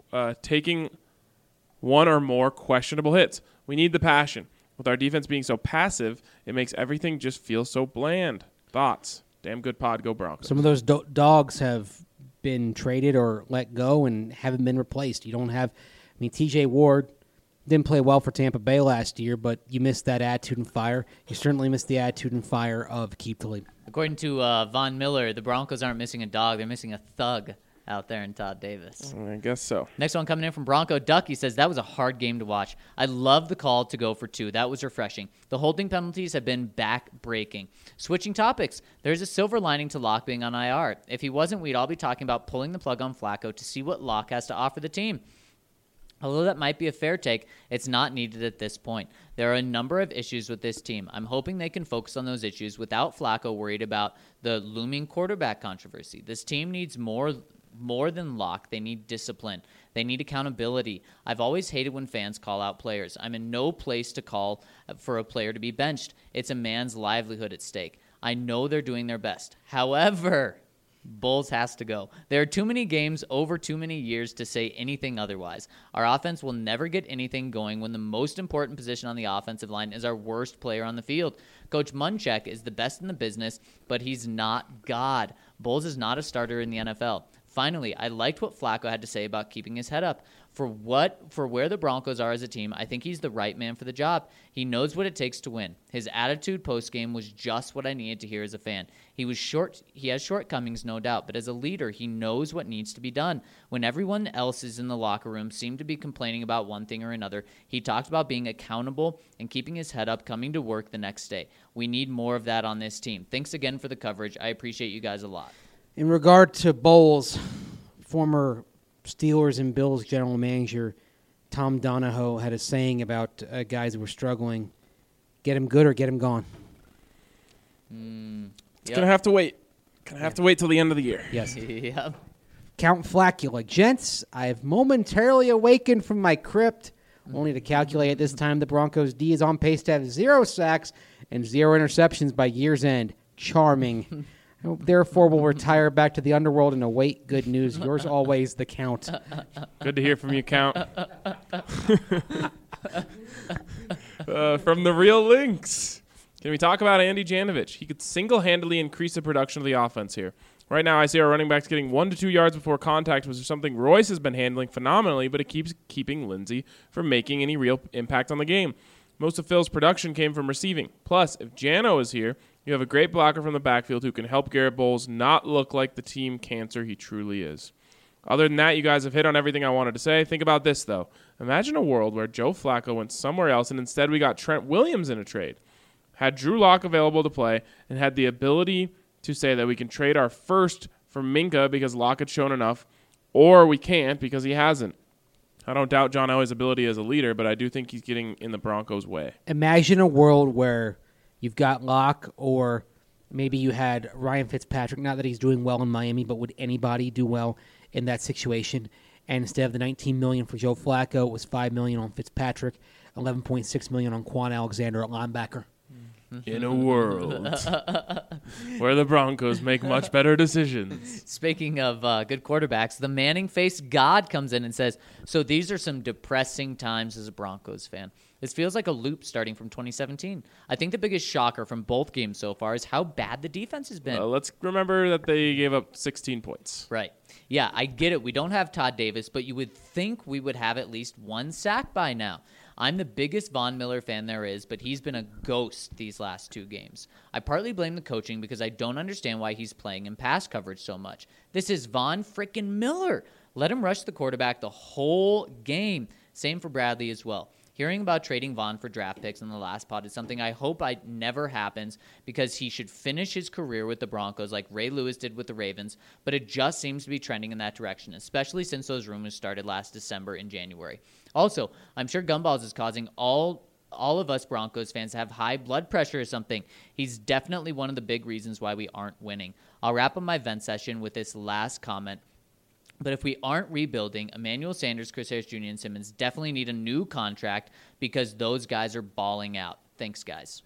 or more questionable hits. We need the passion. With our defense being so passive, it makes everything just feel so bland. Thoughts? Damn good pod, go Broncos. Some of those dogs have been traded or let go and haven't been replaced. You don't have, TJ Ward didn't play well for Tampa Bay last year, but you missed that attitude and fire. You certainly missed the attitude and fire of Keith Talib. According to Von Miller, the Broncos aren't missing a dog. They're missing a thug out there in Todd Davis. I guess so. Next one coming in from Bronco Duck. He says, that was a hard game to watch. I love the call to go for 2. That was refreshing. The holding penalties have been back-breaking. Switching topics, there's a silver lining to Locke being on IR. If he wasn't, we'd all be talking about pulling the plug on Flacco to see what Locke has to offer the team. Although that might be a fair take, it's not needed at this point. There are a number of issues with this team. I'm hoping they can focus on those issues without Flacco worried about the looming quarterback controversy. This team needs more than Locke. They need discipline. They need accountability. I've always hated when fans call out players. I'm in no place to call for a player to be benched. It's a man's livelihood at stake. I know they're doing their best. However, Bowles has to go. There are too many games over too many years to say anything otherwise. Our offense will never get anything going when the most important position on the offensive line is our worst player on the field. Coach Munchak is the best in the business, but he's not God. Bowles is not a starter in the NFL. Finally, I liked what Flacco had to say about keeping his head up. For where the Broncos are as a team, I think he's the right man for the job. He knows what it takes to win. His attitude post-game was just what I needed to hear as a fan. He has shortcomings, no doubt, but as a leader, he knows what needs to be done. When everyone else is in the locker room seemed to be complaining about one thing or another, he talked about being accountable and keeping his head up, coming to work the next day. We need more of that on this team. Thanks again for the coverage. I appreciate you guys a lot. In regard to Bowles, former Steelers and Bills general manager Tom Donahoe had a saying about guys who were struggling: get him good or get him gone. It's going to have to wait. Going to have to wait till the end of the year. Yes. Yep. Count Flacula. Gents, I have momentarily awakened from my crypt, only to calculate at this time the Broncos' D is on pace to have 0 sacks and 0 interceptions by year's end. Charming. Therefore, we'll retire back to the underworld and await good news. Yours always, the Count. Good to hear from you, Count. From the Real Links. Can we talk about Andy Janovich? He could single-handedly increase the production of the offense here. Right now, I see our running backs getting 1 to 2 yards before contact, which is something Royce has been handling phenomenally, but it keeps keeping Lindsey from making any real impact on the game. Most of Phil's production came from receiving. Plus, if Jano is here, you have a great blocker from the backfield who can help Garrett Bowles not look like the team cancer he truly is. Other than that, you guys have hit on everything I wanted to say. Think about this, though. Imagine a world where Joe Flacco went somewhere else and instead we got Trent Williams in a trade, had Drew Lock available to play, and had the ability to say that we can trade our first for Minka because Lock had shown enough, or we can't because he hasn't. I don't doubt John Elway's ability as a leader, but I do think he's getting in the Broncos' way. Imagine a world where you've got Locke, or maybe you had Ryan Fitzpatrick. Not that he's doing well in Miami, but would anybody do well in that situation? And instead of the $19 million for Joe Flacco, it was $5 million on Fitzpatrick, $11.6 million on Quan Alexander at linebacker. In a world where the Broncos make much better decisions. Speaking of good quarterbacks, the Manning-faced God comes in and says, so these are some depressing times as a Broncos fan. This feels like a loop starting from 2017. I think the biggest shocker from both games so far is how bad the defense has been. Let's remember that they gave up 16 points. Right. Yeah, I get it. We don't have Todd Davis, but you would think we would have at least one sack by now. I'm the biggest Von Miller fan there is, but he's been a ghost these last 2 games. I partly blame the coaching because I don't understand why he's playing in pass coverage so much. This is Von frickin' Miller. Let him rush the quarterback the whole game. Same for Bradley as well. Hearing about trading Von for draft picks in the last pod is something I hope never happens because he should finish his career with the Broncos like Ray Lewis did with the Ravens, but it just seems to be trending in that direction, especially since those rumors started last December and January. Also, I'm sure Gumballs is causing all of us Broncos fans to have high blood pressure or something. He's definitely one of the big reasons why we aren't winning. I'll wrap up my vent session with this last comment. But if we aren't rebuilding, Emmanuel Sanders, Chris Harris Jr., and Simmons definitely need a new contract because those guys are balling out. Thanks, guys.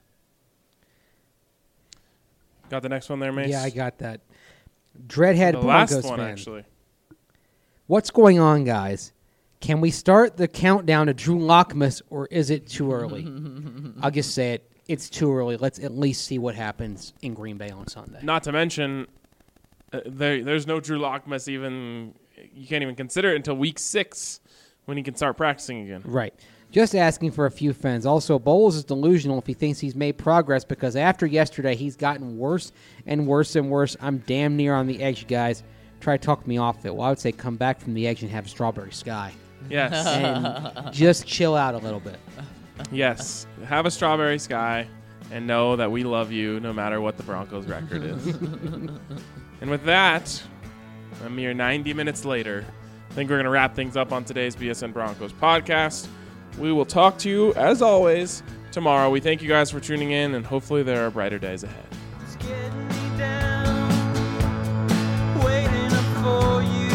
Got the next one there, Mace? Yeah, I got that. Dreadhead the Broncos last one, fan. actually. What's going on, guys? Can we start the countdown to Drew Lockmas, or is it too early? I'll just say it. It's too early. Let's at least see what happens in Green Bay on Sunday. Not to mention, there's no Drew Lockmas even. You can't even consider it until week 6 when he can start practicing again. Right. Just asking for a few friends. Also, Bowles is delusional if he thinks he's made progress because after yesterday, he's gotten worse and worse and worse. I'm damn near on the edge, guys. Try to talk me off it. Well, I would say come back from the edge and have Strawberry Sky. Yes. And just chill out a little bit. Yes. Have a Strawberry Sky and know that we love you no matter what the Broncos' record is. And with that, a mere 90 minutes later, I think we're going to wrap things up on today's BSN Broncos podcast. We will talk to you, as always, tomorrow. We thank you guys for tuning in, and hopefully there are brighter days ahead. It's getting me down, waiting up for you.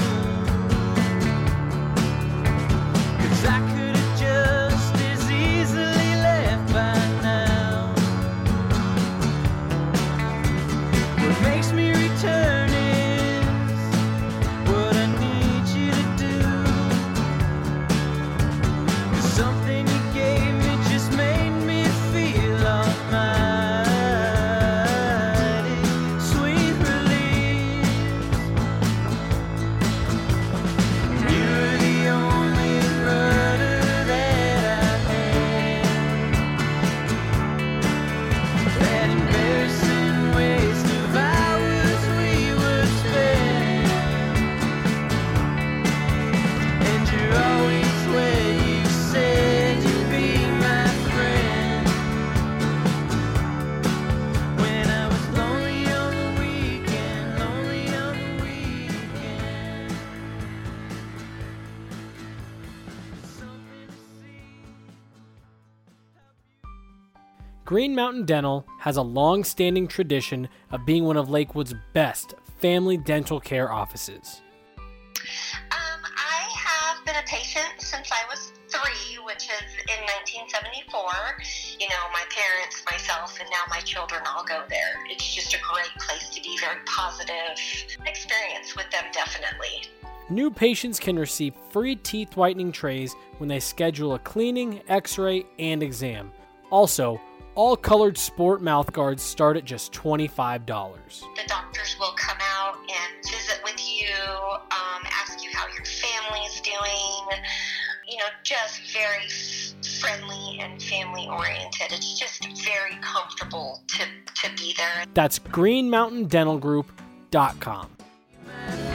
'Cause I could have just as easily left by now. What makes me return is what I need you to do. 'Cause something you gave me just made me feel almighty. Sweet release. You're the only rudder that I had. That embarrassing waste of hours we would spend. And you're always where you said you'd be my friend. When I was lonely on the weekend, lonely on the weekend. Something to see. Green Mountain Dental has a long-standing tradition of being one of Lakewood's best family dental care offices. I have been a patient since I was 3, which is in 1974. You know, my parents, myself, and now my children all go there. It's just a great place to be, very positive experience with them, definitely. New patients can receive free teeth whitening trays when they schedule a cleaning, x-ray, and exam. Also, all colored sport mouth guards start at just $25. The doctors will come out and visit with you, ask you how your family's doing. Just very friendly and family oriented. It's just very comfortable to be there. That's greenmountaindentalgroup.com.